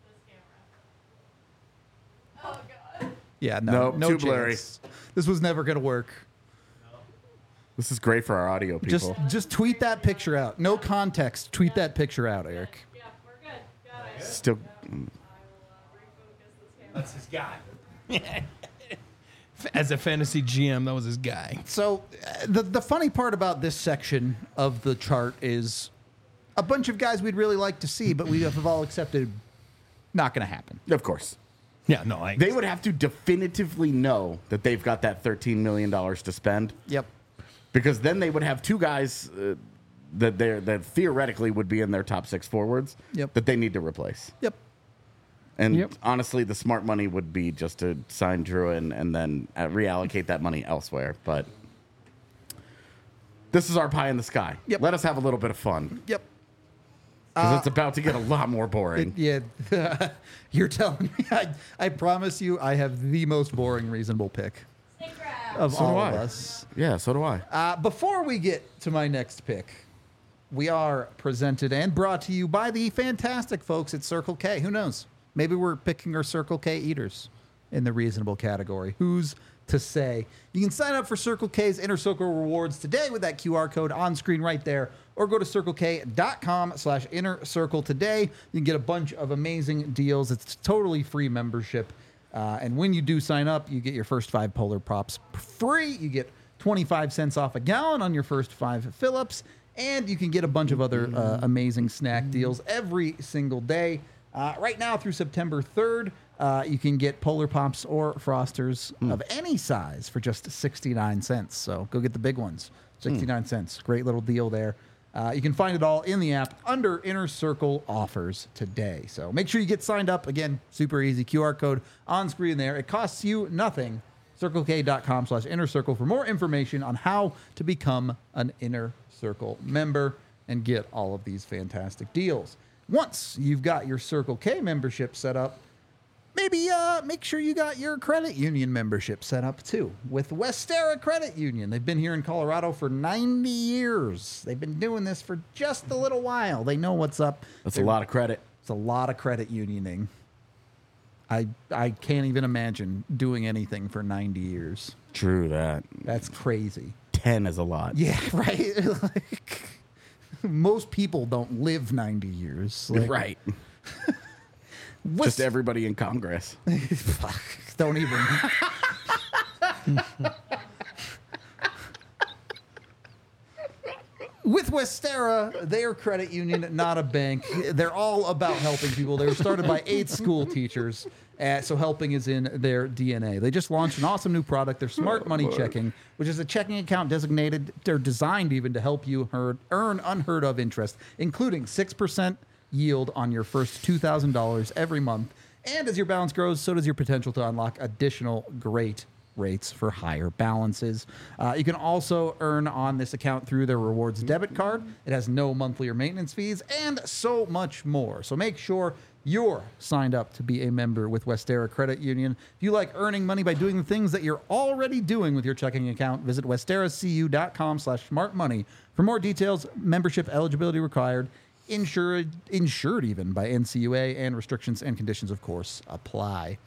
S4: Oh god.
S1: Yeah, no,
S2: Nope,
S1: no
S2: too blurry.
S1: chance. This was never going to work.
S2: This is great for our audio people.
S1: Just tweet that picture out. No context. Tweet that picture out, Eric.
S4: Yeah, we're good. Got it.
S2: Still,
S4: I will refocus this camera.
S3: That's his guy. As a fantasy GM, that was his guy.
S1: So the funny part about this section of the chart is a bunch of guys we'd really like to see, but we have all accepted not going to happen.
S2: of course.
S3: Yeah, no, I.
S2: They would have to definitively know that they've got that $13 million to spend,
S1: Yep.
S2: because then they would have two guys that theoretically would be in their top six forwards
S1: Yep.
S2: that they need to replace.
S1: Yep.
S2: And
S3: Yep.
S2: honestly, the smart money would be just to sign Druin and then reallocate that money elsewhere. But this is our pie in the sky.
S1: Yep.
S2: Let us have a little bit of fun,
S1: Yep.
S2: because it's about to get a lot more boring.
S1: Yeah. You're telling me. I promise you I have the most boring reasonable pick.
S4: Snake grass.
S1: of
S2: So do
S1: all
S2: I.
S1: of us.
S2: Yeah, so do I.
S1: Before we get to my next pick, we are presented and brought to you by the fantastic folks at Circle K. Who knows? Maybe we're picking our Circle K eaters in the reasonable category. Who's to say? You can sign up for Circle K's Inner Circle rewards today with that QR code on screen right there, or go to circlek.com/inner circle today. You can get a bunch of amazing deals. It's totally free membership. And when you do sign up, you get your first 5 Polar Pops free. You get 25 cents off a gallon on your first 5 fill-ups. And you can get a bunch of other amazing snack deals every single day. Right now through September 3rd, you can get Polar Pops or Frosters of any size for just 69 cents. So go get the big ones. 69 cents. Great little deal there. You can find it all in the app under Inner Circle offers today. So make sure you get signed up. Again, super easy. QR code on screen there. It costs you nothing. CircleK.com/Inner Circle for more information on how to become an Inner Circle member and get all of these fantastic deals. Once you've got your Circle K membership set up, maybe make sure you got your credit union membership set up too with Westera Credit Union. They've been here in Colorado for 90 years. They've been doing this for just a little while. They know what's up.
S2: That's a lot of credit.
S1: It's a lot of credit unioning. I can't even imagine doing anything for 90 years.
S2: True that.
S1: That's crazy.
S2: 10 is a lot.
S1: Yeah, right. Like, most people don't live 90 years. Like,
S2: Right.
S1: what's-
S2: Just everybody in Congress.
S1: Fuck, don't even. With Westera, they are a credit union, not a bank. They're all about helping people. They were started by 8 school teachers, so helping is in their DNA. They just launched an awesome new product, their Smart Money Checking, which is a checking account designated, they're designed even to help you earn unheard of interest, including 6% yield on your first $2,000 every month. And as your balance grows, so does your potential to unlock additional great rates for higher balances. You can also earn on this account through their rewards debit card. It has no monthly or maintenance fees and so much more. So make sure you're signed up to be a member with Westera Credit Union. If you like earning money by doing the things that you're already doing with your checking account, visit westeracu.com/smartmoney for more details. Membership eligibility required. Insured even by NCUA, and restrictions and conditions, of course, apply.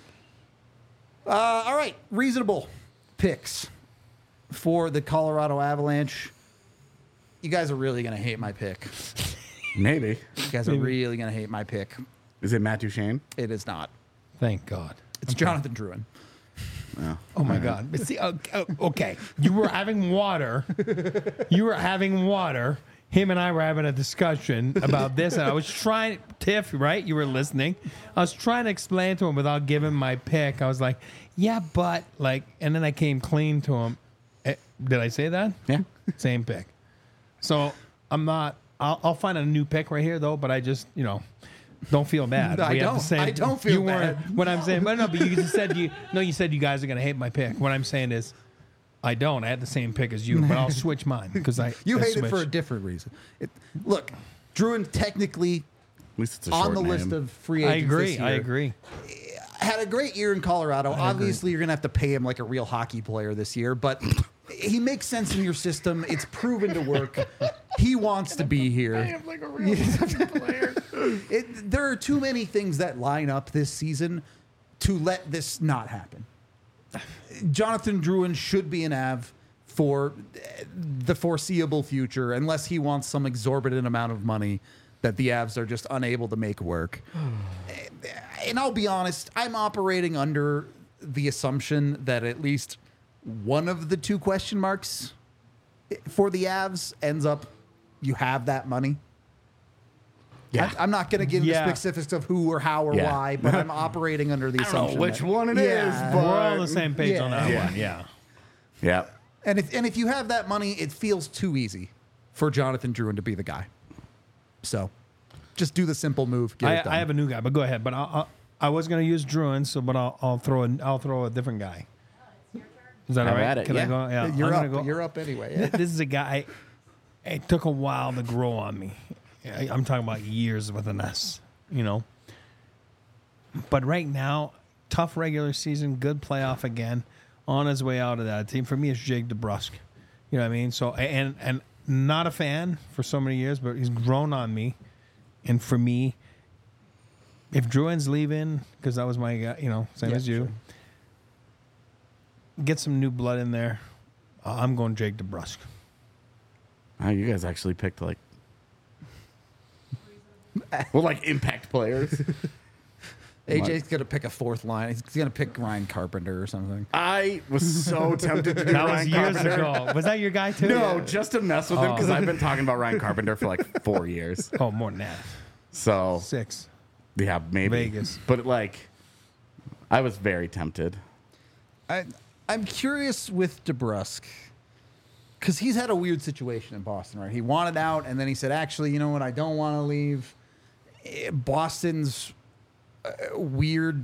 S1: All right, reasonable picks for the Colorado Avalanche. You guys are really going to hate my pick.
S2: Maybe.
S1: You guys are really going to hate my pick.
S2: Is it Matt Duchene?
S1: It is not.
S3: Thank God.
S1: It's Jonathan Drouin.
S3: Oh my God. But see, okay. You were having water. Him and I were having a discussion about this, and I was trying, Tiff, right? You were listening. I was trying to explain to him without giving my pick. I was like, yeah, but, like, and then I came clean to him. Did I say that?
S2: Yeah.
S3: Same pick. So I'm not, I'll find a new pick right here, though, but I just, don't feel bad.
S1: I
S3: We have
S1: don't.
S3: the same-
S1: I don't feel
S3: you weren't-
S1: bad.
S3: What I'm saying, but no, but you just said you said you guys are going to hate my pick. What I'm saying is, I don't. I had the same pick as you, but I'll switch mine because I
S1: You
S3: I
S1: hate it for a
S3: switched.
S1: different reason. Look, Drouin technically
S2: At least it's a
S1: on
S2: short
S1: the
S2: name.
S1: list of free
S3: I
S1: agents this
S3: agree. I
S1: year.
S3: agree.
S1: Had a great year in Colorado. Obviously, you're going to have to pay him like a real hockey player this year, but he makes sense in your system. It's proven to work. He wants to be here.
S2: Like a real player.
S1: There are too many things that line up this season to let this not happen. Jonathan Drouin should be an Av for the foreseeable future, unless he wants some exorbitant amount of money that the Avs are just unable to make work. And I'll be honest, I'm operating under the assumption that at least one of the 2 question marks for the Avs ends up, you have that money.
S2: Yeah.
S1: I'm not going to get into
S3: Yeah.
S1: specifics of who or how or
S2: Yeah.
S1: why, but I'm operating under the
S2: I don't know
S1: assumption
S2: which
S1: that-
S2: one it is,
S1: Yeah.
S2: but-
S3: We're all on the same page on that
S1: Yeah.
S3: one. Yeah.
S2: Yeah.
S1: And if you have that money, it feels too easy for Jonathan Drouin to be the guy. So, just do the simple move. Get it done.
S3: I have a new guy, but go ahead. But I was going to use Drouin, so but I'll throw a different guy. Is that all
S2: Have
S3: right?
S2: at it.
S3: Can I
S2: Yeah.
S3: go? Yeah.
S1: You're
S3: I'm
S1: up.
S3: gonna go.
S1: You're up anyway. Yeah.
S3: This is a guy. It took a while to grow on me. I'm talking about years with an S. But right now, tough regular season, good playoff again. on his way out of that team. For me, it's Jake DeBrusk. You know what I mean? So and not a fan for so many years, but he's grown on me. And for me, if Drouin's leaving, because that was my guy, same as you,
S1: sure.
S3: get some new blood in there. I'm going Jake DeBrusk.
S2: Oh, you guys actually picked like impact players.
S1: AJ's going to pick a fourth line. He's going to pick Ryan Carpenter or something.
S2: I was so tempted to do
S3: That was
S2: Ryan
S3: years
S2: Carpenter.
S3: ago. Was that your guy too?
S2: No, just to mess with him because I've been talking about Ryan Carpenter for like 4 years.
S3: Oh, more than that.
S2: So
S3: 6.
S2: yeah, maybe
S3: Vegas.
S2: But I was very tempted.
S1: I'm curious with DeBrusk because he's had a weird situation in Boston, right? He wanted out, and then he said, actually, you know what? I don't want to leave. Boston's weird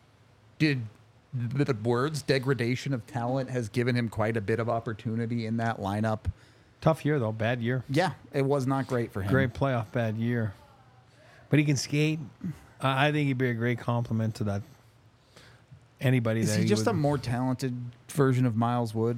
S1: degradation of talent has given him quite a bit of opportunity in that lineup.
S3: Tough year though. Bad year.
S1: Yeah, it was not great for him.
S3: Great playoff, bad year. But he can skate. I think he'd be a great compliment to that. Anybody
S1: Is
S3: that
S1: he just a more talented version of Miles Wood?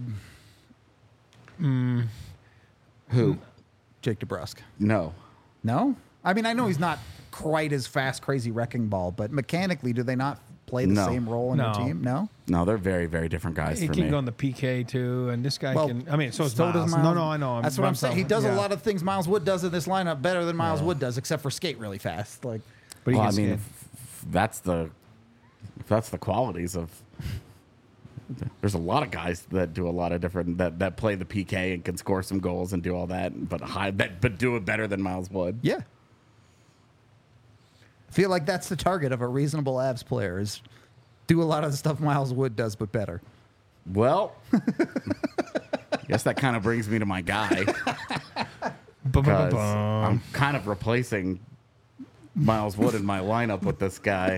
S2: Who?
S1: Jake DeBrusk.
S2: No.
S1: No? I mean, I know he's not quite as fast, crazy wrecking ball, but mechanically, do they not play the
S2: No.
S1: same role in
S3: No.
S1: your team? No?
S2: No, they're very, very different guys
S3: He
S2: for
S3: can
S2: me.
S3: go on the PK too, and this guy
S1: Well,
S3: can. I mean, so does
S1: does
S3: Miles. No, I know.
S1: That's what I'm saying. He does a
S3: yeah.
S1: lot of things Miles Wood does in this lineup better than Miles Wood does, except for skate really fast. Like,
S3: But he
S2: Well, I
S3: can
S2: mean,
S3: skate.
S2: if that's the qualities of. There's a lot of guys that do a lot of different that play the PK and can score some goals and do all that, but do it better than Miles Wood.
S1: yeah. I feel like that's the target of a reasonable Avs player is do a lot of the stuff Miles Wood does, but better.
S2: Well, I guess that kind of brings me to my guy because
S3: Ba-ba-ba-bum.
S2: I'm kind of replacing Miles Wood in my lineup with this guy.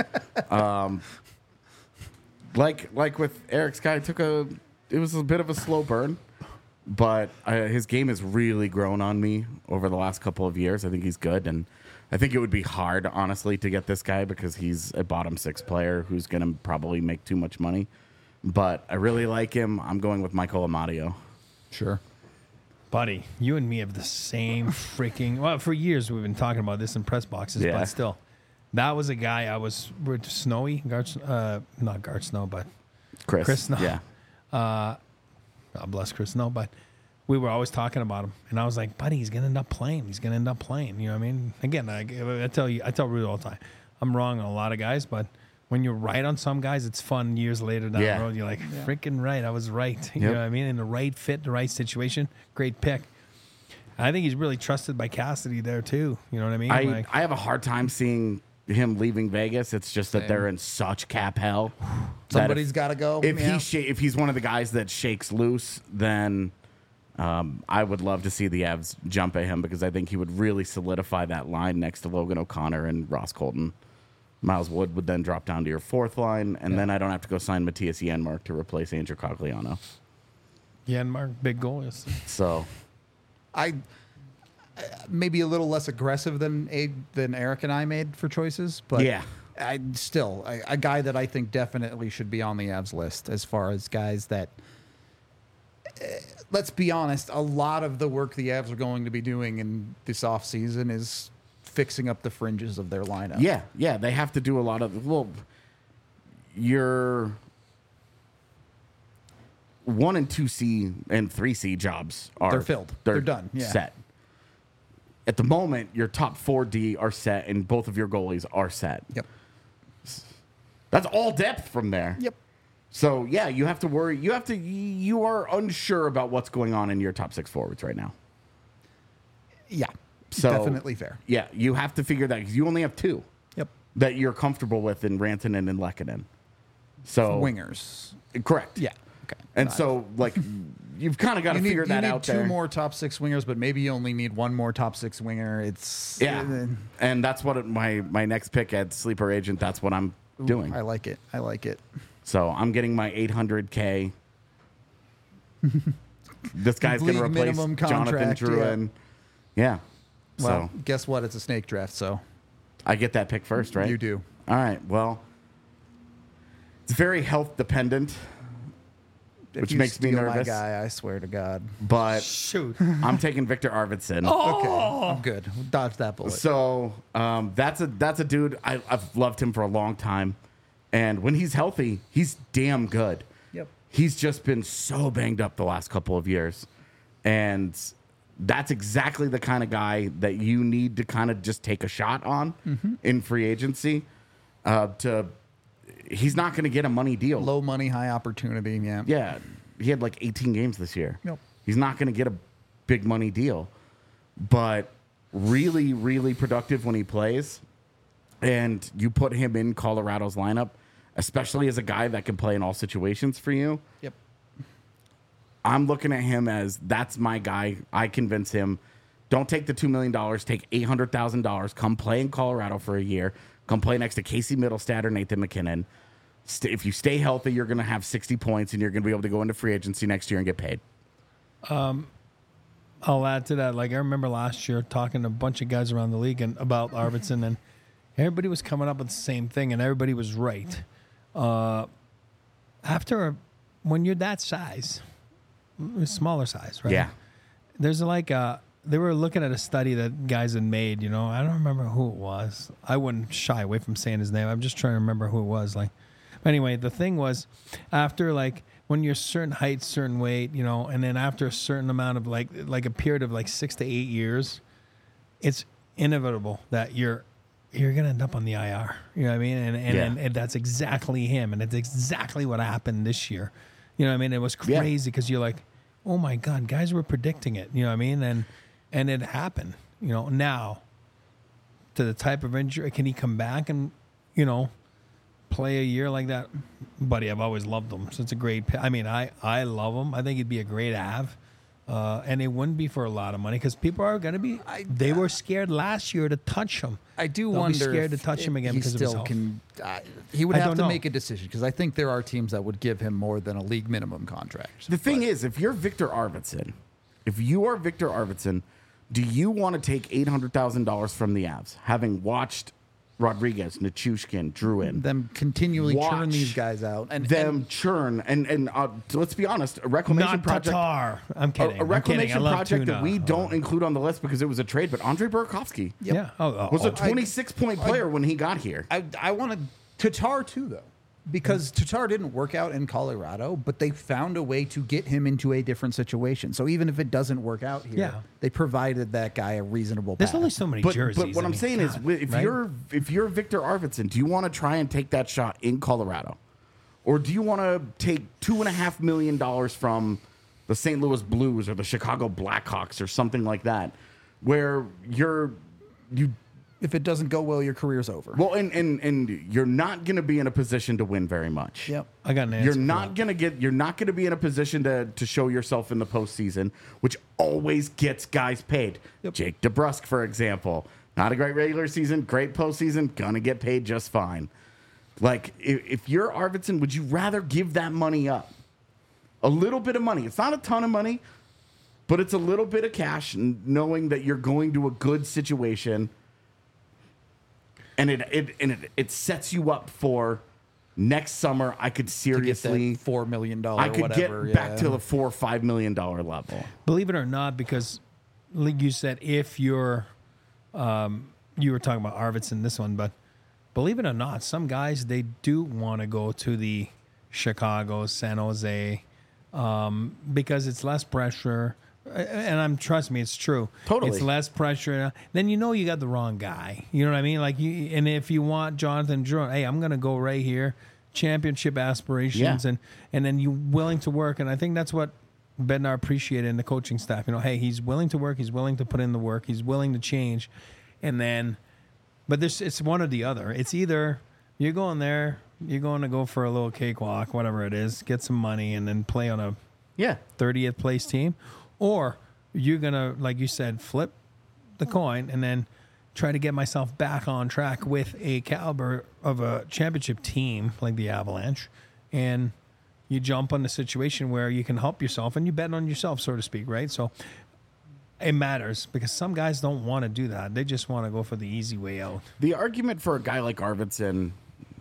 S2: Like with Eric's guy, it was a bit of a slow burn, but his game has really grown on me over the last couple of years. I think he's good, and I think it would be hard, honestly, to get this guy because he's a bottom 6 player who's going to probably make too much money. But I really like him. I'm going with Michael Amadio.
S1: Sure.
S3: Buddy, you and me have the same freaking. Well, for years we've been talking about this in press boxes,
S2: Yeah.
S3: but still, that was a guy we're Snowy, not Gart Snow, but Chris Snow.
S2: Yeah.
S3: God bless Chris Snow, but we were always talking about him, and I was like, buddy, he's gonna end up playing. He's gonna end up playing. You know what I mean? Again, I tell Rudy all the time, I'm wrong on a lot of guys, but when you're right on some guys, it's fun years later down
S2: Yeah.
S3: the road. You're like, freaking right, I was right. You
S2: Yep.
S3: know what I mean? In the right fit, the right situation, great pick. I think he's really trusted by Cassidy there too. You know what I mean?
S2: I have a hard time seeing him leaving Vegas. It's just that
S1: Same.
S2: they're in such cap hell. that
S1: Somebody's got to go.
S2: If
S1: yeah.
S2: if he's one of the guys that shakes loose, then I would love to see the Avs jump at him because I think he would really solidify that line next to Logan O'Connor and Ross Colton. Miles Wood would then drop down to your 4th line, and then I don't have to go sign Matthias Janmark to replace Andrew Cogliano.
S3: Mark, big goal. Yes.
S2: So
S1: I maybe a little less aggressive than Eric and I made for choices, but
S2: Yeah.
S1: I still a guy that I think definitely should be on the Avs list as far as guys that. Let's be honest, a lot of the work the Avs are going to be doing in this offseason is fixing up the fringes of their lineup.
S2: yeah, they have to do a lot of your 1 and 2C and 3C jobs are
S1: They're filled. They're done. Yeah.
S2: set. At the moment, your top 4D are set, and both of your goalies are set.
S1: Yep.
S2: That's all depth from there.
S1: Yep.
S2: So yeah, you have to worry. You are unsure about what's going on in your top 6 forwards right now.
S1: Yeah.
S2: So
S1: Definitely fair.
S2: Yeah, you have to figure that because you only have 2
S1: Yep.
S2: that you're comfortable with in Rantanen and Lehkonen. So
S1: Wingers.
S2: correct.
S1: Yeah. Okay.
S2: And
S1: Nice.
S2: so like you've kind of got to figure that out
S1: two
S2: there.
S1: more top 6 wingers, but maybe you only need one more top 6 winger. It's
S2: Yeah, and that's what my next pick at Sleeper Agent. That's what I'm doing.
S1: I like it. I like it.
S2: So I'm getting my $800K. This guy's going to
S1: League
S2: replace
S1: minimum
S2: Jonathan
S1: contract,
S2: Drouin. Yeah.
S1: Well,
S2: So
S1: guess what? It's a snake draft, so
S2: I get that pick first, right?
S1: you do.
S2: All right. Well, it's very health dependent
S1: if
S2: which
S1: you
S2: makes me
S1: steal
S2: nervous.
S1: my guy, I swear to God.
S2: But
S3: Shoot.
S2: I'm taking Victor Arvidsson.
S1: Okay, I'm good. We'll dodge that bullet.
S2: So that's a dude. I've loved him for a long time, and when he's healthy, he's damn good.
S1: Yep.
S2: He's just been so banged up the last couple of years, and that's exactly the kind of guy that you need to kind of just take a shot on in free agency. He's not going to get a money deal.
S1: Low money, high opportunity. Yeah.
S2: Yeah, he had like 18 games this year.
S1: Yep.
S2: He's not going to get a big money deal, but really, really productive when he plays. And you put him in Colorado's lineup, especially as a guy that can play in all situations for you.
S1: Yep.
S2: I'm looking at him as that's my guy. I convince him, don't take the $2 million, take $800,000, come play in Colorado for a year, come play next to Casey Middlestad or Nathan McKinnon. If you stay healthy, you're going to have 60 points and you're going to be able to go into free agency next year and get paid.
S3: I'll add to that. Like I remember last year talking to a bunch of guys around the league and about Arvidsson, and everybody was coming up with the same thing, and everybody was right. When you're that size, smaller size, right?
S2: Yeah.
S3: There's like they were looking at a study that guys had made. I don't remember who it was. I wouldn't shy away from saying his name. I'm just trying to remember who it was. Like, anyway, the thing was, after like when you're certain height, certain weight, and then after a certain amount of like a period of like 6 to 8 years, it's inevitable that you're gonna end up on the IR. You know what I mean? And that's exactly him, and it's exactly what happened this year. You know what I mean? It was crazy because you're like, oh my God, guys were predicting it. You know what I mean? And it happened. Now to the type of injury, can he come back and play a year like that? Buddy, I've always loved him. So it's a great pick. I mean, I love him. I think he'd be a great Av. And it wouldn't be for a lot of money because people are going to be. They were scared last year to touch him.
S1: I do
S3: They'll
S1: wonder
S3: be scared
S1: if
S3: to touch him again
S1: he
S3: because of his
S1: still
S3: health.
S1: can. He would
S3: I
S1: have
S3: don't
S1: to
S3: know.
S1: make a decision because I think there are teams that would give him more than a league minimum contract.
S2: The thing is, if you are Victor Arvidsson, do you want to take $800,000 from the Avs, having watched Rodriguez, Nichushkin, Druin,
S1: Them continually churn
S2: Watch
S1: these guys out and
S2: them churn, and let's be honest, a reclamation
S3: Not
S2: project.
S3: Tatar. I'm kidding.
S2: A reclamation
S3: I'm kidding. I love
S2: project
S3: Tuna.
S2: that we don't include on the list because it was a trade, but Andrei Burakovsky
S3: Yeah.
S2: was a 26-point player when he got here.
S1: I wanted Tatar too, though, because Tatar didn't work out in Colorado, but they found a way to get him into a different situation. So even if it doesn't work out here,
S3: Yeah.
S1: they provided that guy a reasonable
S3: There's
S1: path.
S3: only so many
S2: But
S3: jerseys.
S2: what
S3: I
S2: I'm
S3: mean,
S2: saying is,
S3: God,
S2: if
S3: right?
S2: you're Victor Arvidsson, do you want to try and take that shot in Colorado, or do you want to take $2.5 million from the St. Louis Blues or the Chicago Blackhawks or something like that, where you
S1: if it doesn't go well, your career's over.
S2: well, and you're not going to be in a position to win very much.
S1: Yep.
S3: I got an answer.
S2: You're
S3: for
S2: not
S3: that.
S2: gonna be in a position to show yourself in the postseason, which always gets guys paid.
S1: Yep.
S2: Jake DeBrusk, for example, not a great regular season, great postseason, gonna get paid just fine. Like if you're Arvidsson, would you rather give that money up? A little bit of money. It's not a ton of money, but it's a little bit of cash, knowing that you're going to a good situation, and it sets you up for next summer. I could
S1: To get
S2: seriously.
S1: that $4 million
S2: I could
S1: whatever.
S2: get back to the $4 or $5 million level.
S3: Believe it or not, because like you said, if you're, you were talking about Arvidsson, this one, but believe it or not, some guys, they do want to go to the Chicago, San Jose, because it's less pressure. And trust me, it's true.
S2: Totally.
S3: It's less pressure. Then you got the wrong guy. You know what I mean? Like and if you want Jonathan Drouin, hey, I'm going to go right here, championship aspirations,
S2: Yeah.
S3: and then you willing to work. And I think that's what Bednar appreciated in the coaching staff. Hey, he's willing to work. He's willing to put in the work. He's willing to change. And then, but it's one or the other. It's either you're going there, you're going to go for a little cakewalk, whatever it is, get some money, and then play on a
S2: Yeah.
S3: 30th place team, or you're going to, like you said, flip the coin and then try to get myself back on track with a caliber of a championship team like the Avalanche, and you jump on the situation where you can help yourself and you bet on yourself, so to speak, right? So it matters because some guys don't want to do that. They just want to go for the easy way out.
S2: The argument for a guy like Arvidsson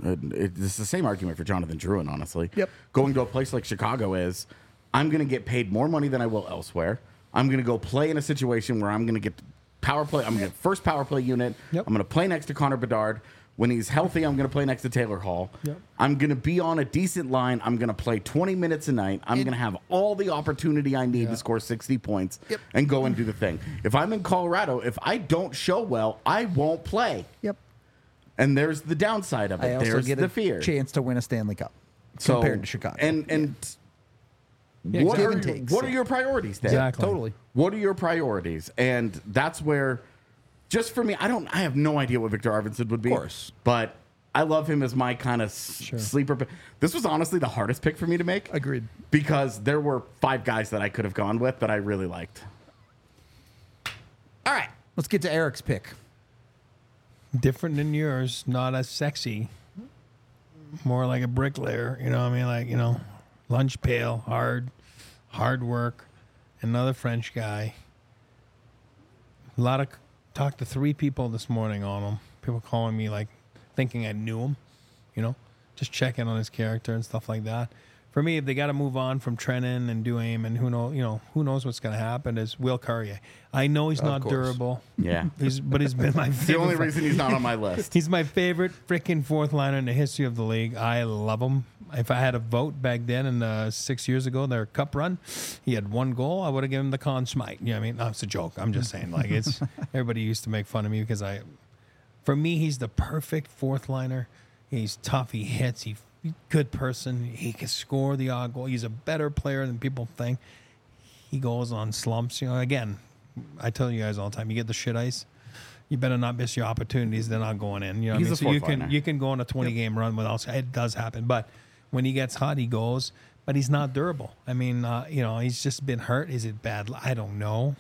S2: It's the same argument for Jonathan Drouin, honestly.
S1: Yep.
S2: Going to a place like Chicago is, I'm going to get paid more money than I will elsewhere. I'm going to go play in a situation where I'm going to get power play. I'm going to get first power play unit.
S3: Yep.
S2: I'm going to play next to Connor Bedard. When he's healthy, I'm going to play next to Taylor Hall.
S3: Yep.
S2: I'm going to be on a decent line. I'm going to play 20 minutes a night. I'm going to have all the opportunity I need to score 60 points and go and do the thing. If I'm in Colorado, if I don't show well, I won't play.
S1: Yep.
S2: And there's the downside of it.
S1: I also
S2: There's
S1: get
S2: the
S1: a
S2: fear.
S1: chance to win a Stanley Cup
S2: So-
S1: compared to Chicago.
S2: And
S3: Yeah,
S2: what,
S1: give
S2: are,
S1: and takes.
S2: what are your priorities, Dan?
S3: Exactly.
S1: totally.
S2: What are your priorities? And that's where, just for me, I have no idea what Victor Arvidsson would be.
S1: Of course.
S2: But I love him as my kind of sleeper pick. This was honestly the hardest pick for me to make.
S1: Agreed.
S2: Because there were 5 guys that I could have gone with that I really liked.
S1: All right, let's get to Eric's pick.
S3: Different than yours, not as sexy. More like a bricklayer, you know what I mean? Like, lunch pail, hard work. Another French guy. Talked to 3 people this morning on him. People calling me like thinking I knew him, just checking on his character and stuff like that. For me, if they got to move on from Trennan and Duhaime, and who knows what's going to happen, is Will Carrier. I know he's not
S1: course.
S3: durable.
S2: Yeah.
S3: But he's been my
S2: The
S3: favorite.
S2: only reason he's not on my list.
S3: He's my favorite freaking fourth liner in the history of the league. I love him. If I had a vote back then in 6 years ago, their cup run, he had 1 goal. I would have given him the Conn Smythe. You know what I mean? No, it's a joke. I'm just saying. Like everybody used to make fun of me because for me, he's the perfect fourth liner. He's tough. He hits. He's a good person. He can score the odd goal. He's a better player than people think. He goes on slumps. Again, I tell you guys all the time, you get the shit ice. You better not miss your opportunities. They're not going in. You know what I mean?
S2: He's a
S3: So
S2: fourth liner.
S3: you can go on a 20-game run without. It does happen, but when he gets hot, he goes. But he's not durable. I mean, he's just been hurt. Is it bad? I don't know.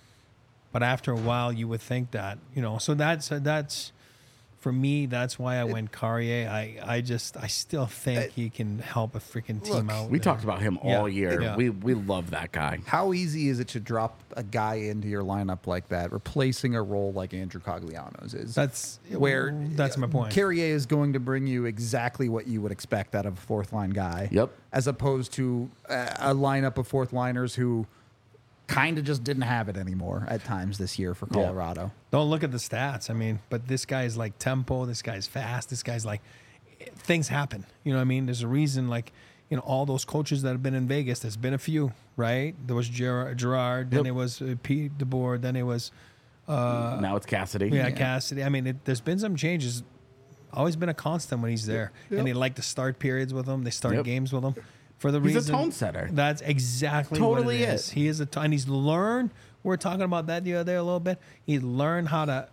S3: But after a while, you would think that. So that's for me. That's why I went Carrier. I still think he can help a freaking team out.
S2: We talked about him all
S3: Yeah.
S2: year.
S3: Yeah.
S2: We love that guy.
S1: How easy is it to drop a guy into your lineup like that, replacing a role like Andrew Cogliano's is?
S3: That's my point.
S1: Carrier is going to bring you exactly what you would expect out of a fourth line guy.
S2: Yep.
S1: As opposed to a lineup of fourth liners who kind of just didn't have it anymore at times this year for Colorado.
S3: Don't look at the stats. I mean, but this guy's like tempo. This guy's fast. This guy's like, things happen. You know what I mean? There's a reason, like, all those coaches that have been in Vegas, there's been a few, right? There was Gerard, then it was Pete DeBoer, then it was
S2: Now it's Cassidy.
S3: Cassidy. I mean, there's been some changes. Always been a constant when he's there. And they like to start periods with him. They start games with him. For the
S2: He's
S3: reason,
S2: a tone setter.
S3: That's exactly
S2: Totally
S3: what it
S2: is.
S3: is. He is and he's learned. We were talking about that the other day a little bit. He's learned how to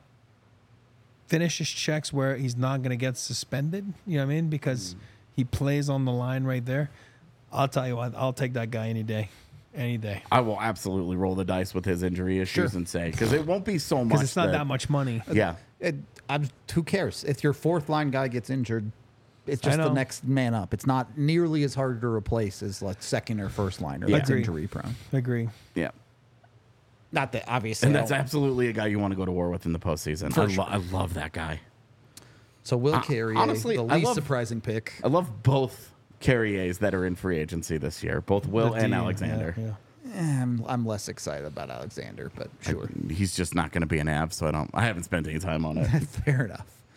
S3: finish his checks where he's not going to get suspended. You know what I mean? Because he plays on the line right there. I'll tell you what. I'll take that guy any day. Any day.
S2: I will absolutely roll the dice with his injury issues and say, because it won't be so much.
S3: Because it's not that much money.
S2: Yeah.
S1: Who cares? If your fourth line guy gets injured, it's just
S3: I
S1: the
S3: know.
S1: next man up. It's not nearly as hard to replace as like second or first liner.
S2: Yeah.
S1: That's
S3: Agree.
S1: injury prone.
S3: Agree.
S2: Yeah.
S1: Not that obviously.
S2: And that's absolutely a guy you want to go to war with in the postseason.
S1: For
S2: I,
S1: sure.
S2: I love that guy.
S1: So Will Carrier,
S2: honestly,
S1: the
S2: I
S1: least
S2: love-
S1: surprising pick.
S2: I love both Carriers that are in free agency this year, both Will
S3: The
S2: and
S3: D,
S2: Alexander.
S3: yeah.
S1: I'm less excited about Alexander, but sure.
S2: He's just not going to be an Av, so I haven't spent any time on it.
S1: Fair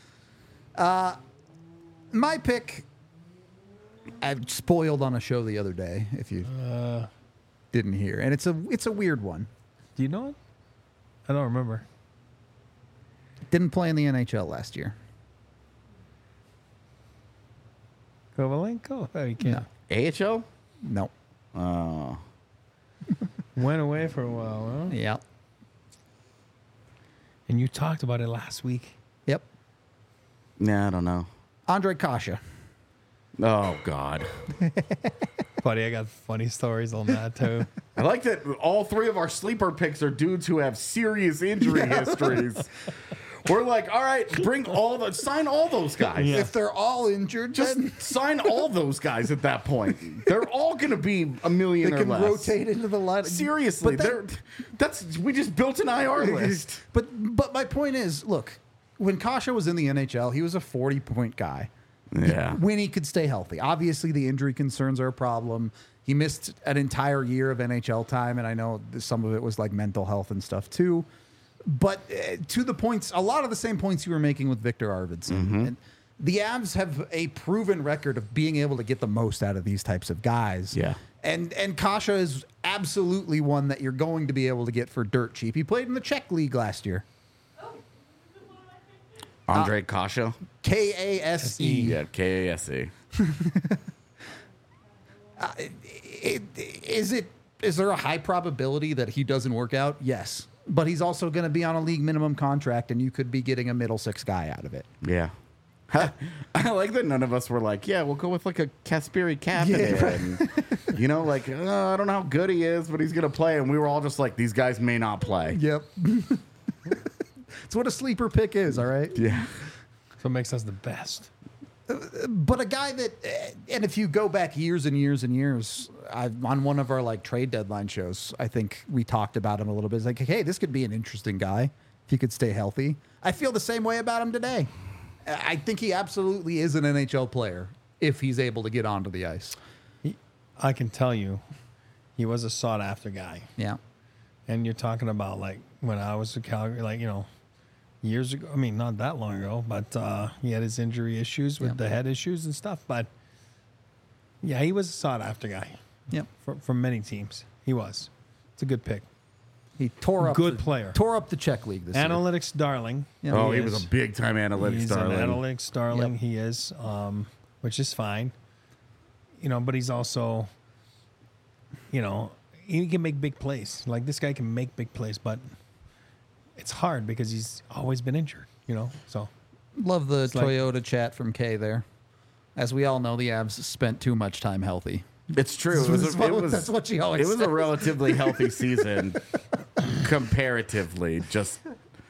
S1: enough. My pick, I spoiled on a show the other day. If you didn't hear, and it's a weird one.
S3: Do you know it? I don't remember.
S1: Didn't play in the NHL last year.
S3: Kovalenko? Oh, you can't.
S2: AHL?
S1: No.
S2: Oh.
S3: Went away for a while, huh?
S1: Yeah.
S3: And you talked about it last week.
S1: Yep.
S2: Nah, I don't know.
S1: Andre Kasha.
S2: Oh, God.
S3: Buddy, I got funny stories on that, too.
S2: I like that all 3 of our sleeper picks are dudes who have serious injury histories. We're like, all right, sign all those guys.
S3: Yeah.
S1: If they're all injured,
S2: Just
S1: then
S2: sign all those guys at that point. They're all going to be $1 million
S1: they
S2: or
S1: can
S2: less.
S1: rotate into the line.
S2: Seriously, we just built an IR list.
S1: But my point is, look, when Kasha was in the NHL, he was a 40-point guy.
S2: Yeah.
S1: when he could stay healthy. Obviously, the injury concerns are a problem. He missed an entire year of NHL time, and I know some of it was like mental health and stuff too. But to the points, a lot of the same points you were making with Victor Arvidsson. And the Avs have a proven record of being able to get the most out of these types of guys.
S2: Yeah.
S1: And Kasha is absolutely one that you're going to be able to get for dirt cheap. He played in the Czech League last year.
S2: Andre Kasha.
S1: Kase.
S2: Yeah, Kase.
S1: Is there a high probability that he doesn't work out? Yes. But he's also going to be on a league minimum contract, and you could be getting a middle six guy out of it.
S2: Yeah. I like that none of us were like, yeah, we'll go with like a Kasperi Kapanen. And, you know, like, I don't know how good he is, but he's going to play. And we were all just like, these guys may not play.
S1: Yep. It's what a sleeper pick is, all right?
S2: Yeah.
S3: So it makes us the best.
S1: But a guy that, and if you go back years and years and years, on one of our like trade deadline shows, I think we talked about him a little bit. It's like, hey, this could be an interesting guy if he could stay healthy. I feel the same way about him today. I think he absolutely is an NHL player if he's able to get onto the ice.
S3: I can tell you, he was a sought after guy.
S1: Yeah.
S3: And you're talking about like when I was in Calgary, like, you know, years ago. I mean, not that long ago, but he had his injury issues with the head issues and stuff. But yeah, he was a sought after guy.
S1: Yep.
S3: From many teams. He was. It's a good pick.
S1: He tore up
S3: Good player.
S1: Tore up the Czech League this year.
S3: Analytics darling.
S1: Yeah.
S2: Oh, he
S3: is.
S2: was a big time analytics
S3: He's
S2: darling.
S3: an analytics darling.
S1: Yep.
S3: He is, which is fine. You know, but he's also, you know, he can make big plays. Like this guy can make big plays, but it's hard because he's always been injured. You know, so
S1: Love the
S3: like-
S1: Toyota chat from Kay there. As we all know, the Avs spent too much time healthy.
S2: It's true.
S1: That's what she always
S2: It was
S1: says.
S2: a relatively healthy season, comparatively. Just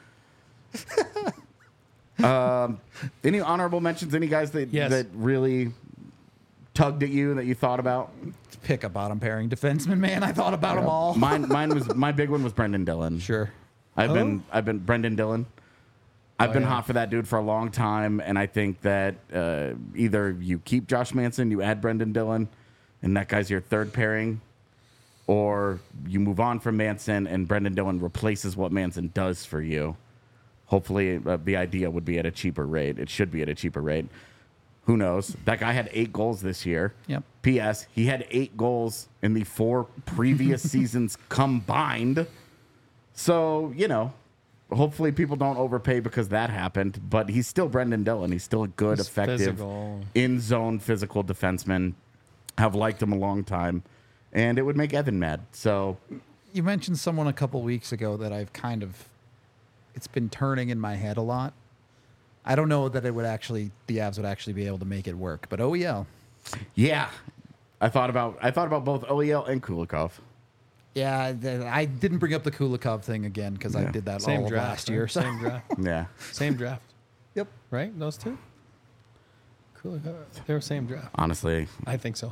S2: any honorable mentions? Any guys that
S3: Yes.
S2: that really tugged at you that you thought about?
S1: Pick a bottom pairing defenseman, man. I thought about them all.
S2: Mine was my big one was Brendan Dillon.
S1: Sure.
S2: I've been Brendan Dillon. I've been
S3: yeah.
S2: hot for that dude for a long time, and I think that either you keep Josh Manson, you add Brendan Dillon, and that guy's your third pairing, or you move on from Manson and Brendan Dillon replaces what Manson does for you. Hopefully, the idea would be at a cheaper rate. It should be at a cheaper rate. Who knows? That guy had 8 goals this year.
S1: Yep.
S2: P.S. He had 8 goals in the 4 previous seasons combined. So, you know, hopefully people don't overpay because that happened. But he's still Brendan Dillon. He's still a good,
S3: He's
S2: effective,
S3: physical.
S2: in-zone physical defenseman. Have liked him a long time. And it would make Evan mad. So,
S1: You mentioned someone a couple weeks ago that I've kind of, it's been turning in my head a lot. I don't know that the Avs would actually be able to make it work, but OEL.
S2: yeah. I thought about both OEL and Kulikov.
S1: Yeah, I didn't bring up the Kulikov thing again because I
S2: Yeah.
S1: did that
S3: Same
S1: all of
S3: draft.
S1: last
S3: right?
S1: year. So.
S3: Same draft.
S2: Yeah.
S3: Same draft.
S1: Yep.
S3: Right? Those two? Cool. They were same draft.
S2: Honestly,
S3: I think so.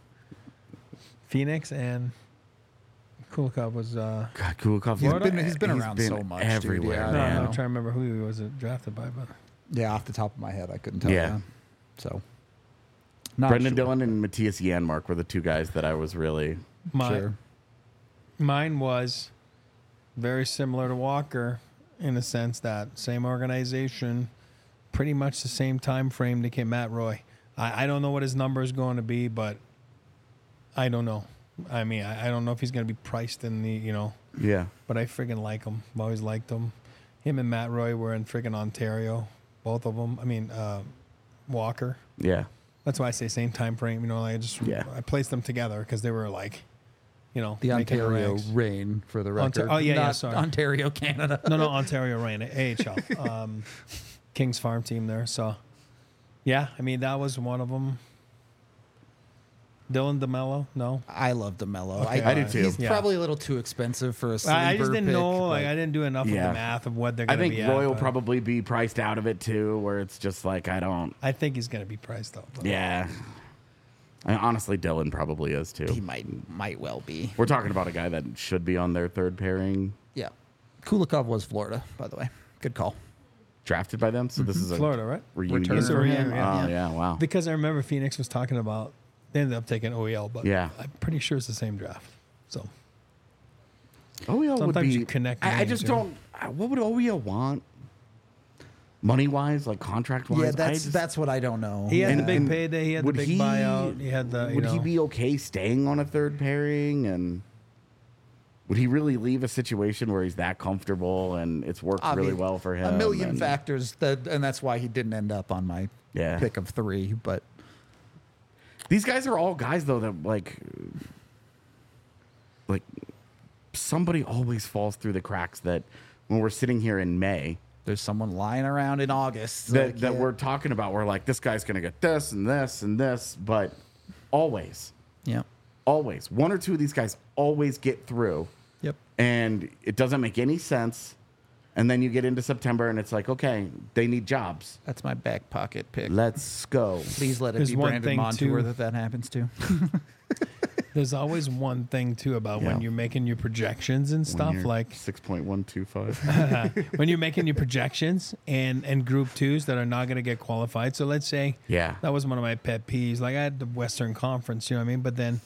S3: Phoenix and Kulikov was.
S2: God, Kulikov.
S1: He's been around so much, dude.
S2: everywhere,
S1: Yeah,
S3: No,
S2: man.
S3: I'm trying to remember who he was drafted by, but
S1: Yeah, off the top of my head, I couldn't tell
S2: Yeah.
S1: you. So, not
S2: Brendan
S1: sure.
S2: Dillon and Matthias Janmark were the two guys that I was really.
S1: Sure.
S3: mine was very similar to Walker in the sense that same organization, pretty much the same time frame to get Matt Roy. I don't know what his number is going to be, but I don't know. I mean, I don't know if he's going to be priced in the, you know,
S2: Yeah.
S3: but I friggin' like him. I've always liked him. Him and Matt Roy were in friggin' Ontario, both of them. I mean, Walker.
S2: Yeah.
S3: That's why I say same time frame. You know, I placed them together because they were like, you know,
S1: The
S3: making the
S1: Ontario
S3: ranks.
S1: Reign for the record.
S3: Oh, yeah,
S1: Not
S3: sorry.
S1: Ontario, Canada.
S3: No, Ontario Reign, AHL, Kings Farm team there. So, yeah, I mean that was one of them. Dylan DeMello, no,
S1: I love DeMello.
S3: Okay.
S2: I do too.
S1: He's
S3: Yeah.
S1: probably a little too expensive for a sleeper
S3: I just didn't
S1: pick,
S3: know. Like
S1: but-
S3: I didn't do enough of
S2: Yeah.
S3: the math of what they're
S2: I
S3: going to
S2: think
S3: be.
S2: Roy
S3: at,
S2: will
S3: but
S2: probably be priced out of it too, where it's just like, I don't.
S3: I think he's going to be priced up. but-
S2: Yeah. And honestly, Dylan probably is
S1: he
S2: too.
S1: might well be.
S2: We're talking about a guy that should be on their third pairing.
S1: Yeah. Kulikov was Florida, by the way. Good call.
S2: drafted by them. So this is a
S3: Florida, right?
S2: reunion.
S1: Return
S3: for him,
S2: Oh,
S3: yeah.
S2: yeah, wow.
S3: Because I remember Phoenix was talking about they ended up taking OEL, but
S2: Yeah.
S3: I'm pretty sure it's the same draft. So
S2: OEL would
S3: sometimes
S2: be.
S3: you connect
S2: I
S3: names,
S2: just
S3: you know?
S2: don't. What would OEL want? Money wise, like contract wise.
S1: Yeah, that's what I don't know.
S3: he had
S2: And-
S3: the big
S2: and
S3: payday, he had the
S2: would
S3: big
S2: he-
S3: buyout, he had the. You
S2: Would
S3: know,
S2: he be okay staying on a third pairing? And would he really leave a situation where he's that comfortable and it's worked
S1: I
S2: really
S1: mean,
S2: well for him?
S1: A million
S2: and,
S1: factors, and that's why he didn't end up on my
S2: Yeah.
S1: pick of 3. But
S2: These guys are all guys though that like somebody always falls through the cracks that when we're sitting here in May
S1: there's someone lying around in August
S2: that,
S1: like,
S2: that
S1: yeah.
S2: we're talking about. We're like, this guy's gonna get this and this and this, but always
S1: Yeah.
S2: one or two of these guys always get through,
S1: Yep.
S2: and it doesn't make any sense. And then you get into September and it's like, okay, they need jobs.
S1: That's my back pocket pick.
S2: Let's go.
S1: Please let it
S3: There's
S1: be
S3: one
S1: Brandon
S3: thing,
S1: Montour
S3: too.
S1: that happens to.
S3: there's always one thing too about when
S2: Yeah.
S3: you're making your projections and stuff, like
S2: 6.125.
S3: when you're making your projections and group twos that are not going to get qualified. So let's say
S2: Yeah.
S3: that was one of my pet peeves. Like I had the Western Conference, you know what I mean? But then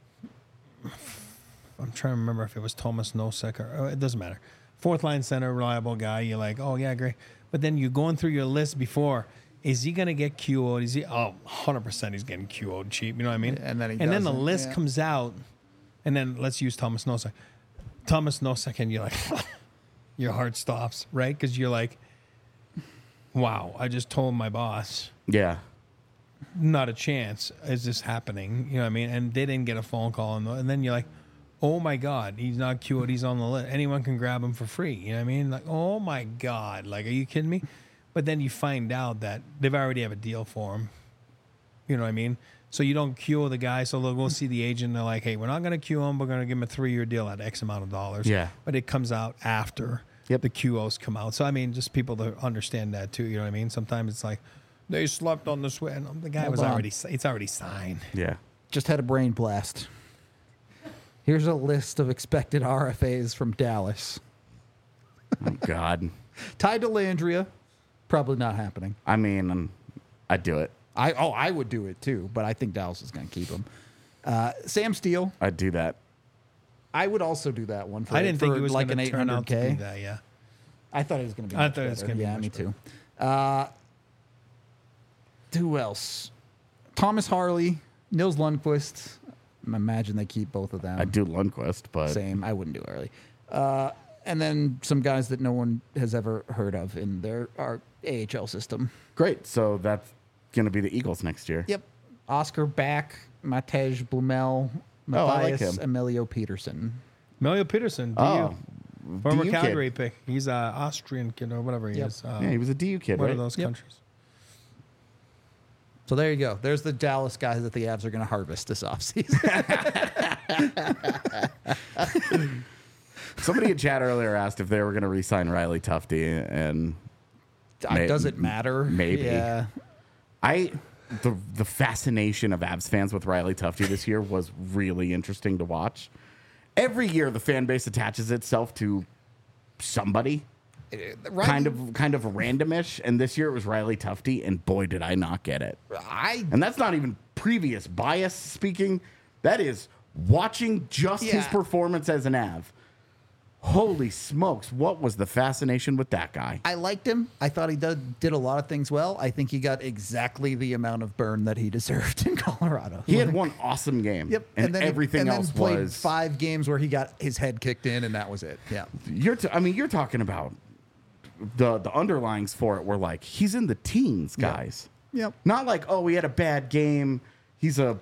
S3: I'm trying to remember if it was Thomas Nosek or it doesn't matter. Fourth line center, reliable guy. You're like, oh yeah, great. But then you're going through your list before. Is he going to get QO'd? Is he? Oh, 100% he's getting QO'd cheap. You know what I mean?
S1: And then he
S3: the
S1: doesn't,
S3: list
S1: yeah.
S3: comes out, and then let's use Thomas Nosek. Thomas Nosek, and you're like, your heart stops, right? Because you're like, wow, I just told my boss,
S2: Yeah.
S3: not a chance is this happening. You know what I mean? And they didn't get a phone call. And then you're like, oh my God, he's not QO'd. He's on the list. Anyone can grab him for free. You know what I mean? Like, oh my God. Like, are you kidding me? But then you find out that they've already have a deal for him. You know what I mean? So you don't QO the guy. So they'll go see the agent. And they're like, hey, we're not going to QO him. We're going to give him a 3-year deal at X amount of dollars.
S2: Yeah.
S3: But it comes out after
S2: Yep.
S3: the QOs come out. So, I mean, just people to understand that too. You know what I mean? Sometimes it's like, they slept on the sweat. And the guy
S1: Hold
S3: was
S1: on.
S3: already, it's already signed.
S2: Yeah.
S1: Just had a brain blast. Here's a list of expected RFAs from Dallas.
S2: Oh, God.
S1: Ty Dellandrea, probably not happening.
S2: I mean, I'd do it.
S1: I would do it too, but I think Dallas is going to keep him. Sam Steele,
S2: I'd do that.
S1: I would also do that one for
S3: I didn't think
S1: for
S3: he was
S1: like
S3: going
S1: an
S3: to turn out to be
S1: 800K.
S3: that, yeah.
S1: I thought it was going to be.
S3: I
S1: much
S3: thought it was
S1: better.
S3: gonna be
S1: Yeah,
S3: much
S1: me
S3: better.
S1: too. Who else? Thomas Harley, Nils Lundqvist. I imagine they keep both of them.
S2: I'd do Lundqvist, but
S1: Same. I wouldn't do Harley. And then some guys that no one has ever heard of in our AHL system.
S2: great. So that's going to be the Eagles next year.
S1: Yep. Oscar Back, Matej Blumel,
S2: Oh, I like
S1: Matthias
S2: him.
S1: Emilio Peterson.
S3: Melio Peterson, DU.
S2: Oh,
S3: Former
S2: DU kid.
S3: Calgary pick. He's an Austrian kid or whatever he
S1: Yep.
S3: is.
S2: Yeah, he was a DU kid,
S3: one
S2: right?
S3: of those
S1: Yep.
S3: countries.
S1: So there you go. There's the Dallas guys that the Avs are going to harvest this offseason.
S2: Somebody in chat earlier asked if they were going to re-sign Riley Tufte, and
S1: Does it matter?
S2: Maybe.
S1: Yeah.
S2: The fascination of Avs fans with Riley Tufte this year was really interesting to watch. Every year, the fan base attaches itself to somebody, kind of randomish, and this year it was Riley Tufte, and boy, did I not get it. And that's not even previous bias speaking. That is watching just his
S1: Yeah.
S2: performance as an Av. Holy smokes, what was the fascination with that guy?
S1: I liked him. I thought he did a lot of things well. I think he got exactly the amount of burn that he deserved in Colorado.
S2: He had one awesome game.
S1: Yep.
S2: And,
S1: then
S2: everything
S1: then
S2: else
S1: played
S2: was
S1: 5 games where he got his head kicked in, and that was it. Yeah.
S2: you're talking about the underlyings for it were like he's in the teens, guys.
S1: Yep.
S2: Not like, oh, he had a bad game. He's a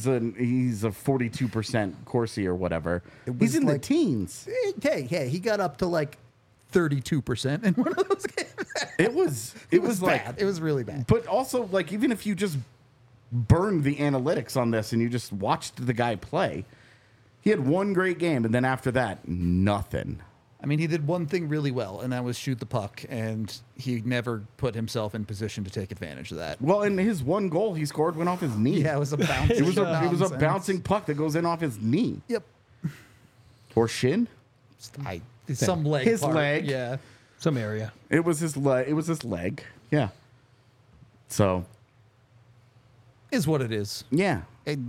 S2: 42% Corsi or whatever.
S1: It was
S2: He's in the
S1: like-
S2: teens.
S1: Hey, he got up to like 32% in one of those games.
S2: It was like
S1: bad. It was really bad.
S2: But also, like, even if you just burned the analytics on this and you just watched the guy play, he had one great game, and then after that, nothing.
S1: I mean, he did one thing really well, and that was shoot the puck, and he never put himself in position to take advantage of that.
S2: Well, and his one goal he scored went off his knee.
S1: Yeah, it was a bounce.
S2: It was a
S1: nonsense.
S2: bouncing puck that goes in off his knee
S1: Yep.
S2: or shin.
S1: Some leg.
S2: His
S1: part.
S2: leg.
S1: Yeah.
S3: Some area.
S2: It was his leg. Yeah. So
S1: Is what it is.
S2: yeah.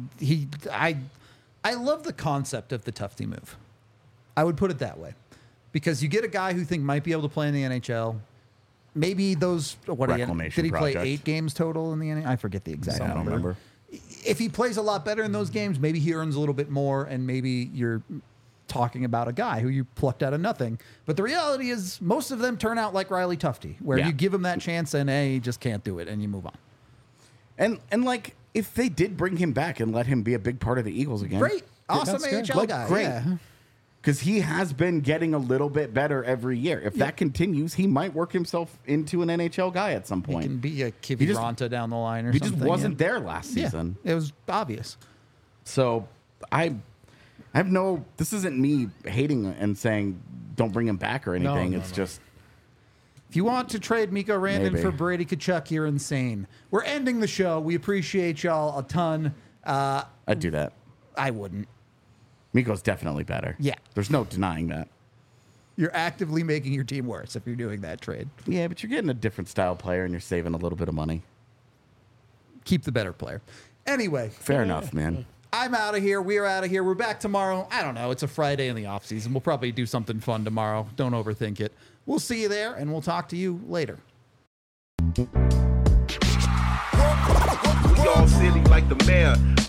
S1: I love the concept of the Tufty move. I would put it that way, because you get a guy who think might be able to play in the NHL. Maybe those did
S2: Reclamation
S1: he play
S2: project.
S1: 8 games total in the NHL? I forget the exact
S2: I don't
S1: number.
S2: remember.
S1: If he plays a lot better in those games, maybe he earns a little bit more, and maybe you're talking about a guy who you plucked out of nothing. But the reality is, most of them turn out like Riley Tufty, where
S2: Yeah.
S1: you give him that chance and he just can't do it, and you move on.
S2: And like, if they did bring him back and let him be a big part of the Eagles again,
S1: Great, awesome
S3: that's good.
S1: AHL
S2: Like,
S1: guy.
S2: great.
S1: Yeah.
S2: because he has been getting a little bit better every year. If that continues, he might work himself into an NHL guy at some
S1: He
S2: point.
S1: can be a
S2: He
S1: Kivi
S2: just-
S1: Ronta down the line or
S2: He
S1: something.
S2: just wasn't there last
S1: Yeah.
S2: season.
S1: It was obvious.
S2: So I have no. This isn't me hating and saying don't bring him back or anything.
S3: no,
S2: It's
S3: no.
S2: just
S1: If you want to trade Miko Rantanen
S2: Maybe.
S1: for Brady Tkachuk, you're insane. We're ending the show. We appreciate y'all a ton.
S2: I'd do that.
S1: I wouldn't.
S2: Miko's definitely better.
S1: Yeah.
S2: There's no denying that.
S1: You're actively making your team worse if you're doing that trade.
S2: Yeah, but you're getting a different style player and you're saving a little bit of money.
S1: Keep the better player. Anyway,
S2: Fair enough, man.
S1: I'm out of here. We're out of here. We're back tomorrow. I don't know. It's a Friday in the off season. We'll probably do something fun tomorrow. Don't overthink it. We'll see you there, and we'll talk to you later.
S5: We all silly like the mayor.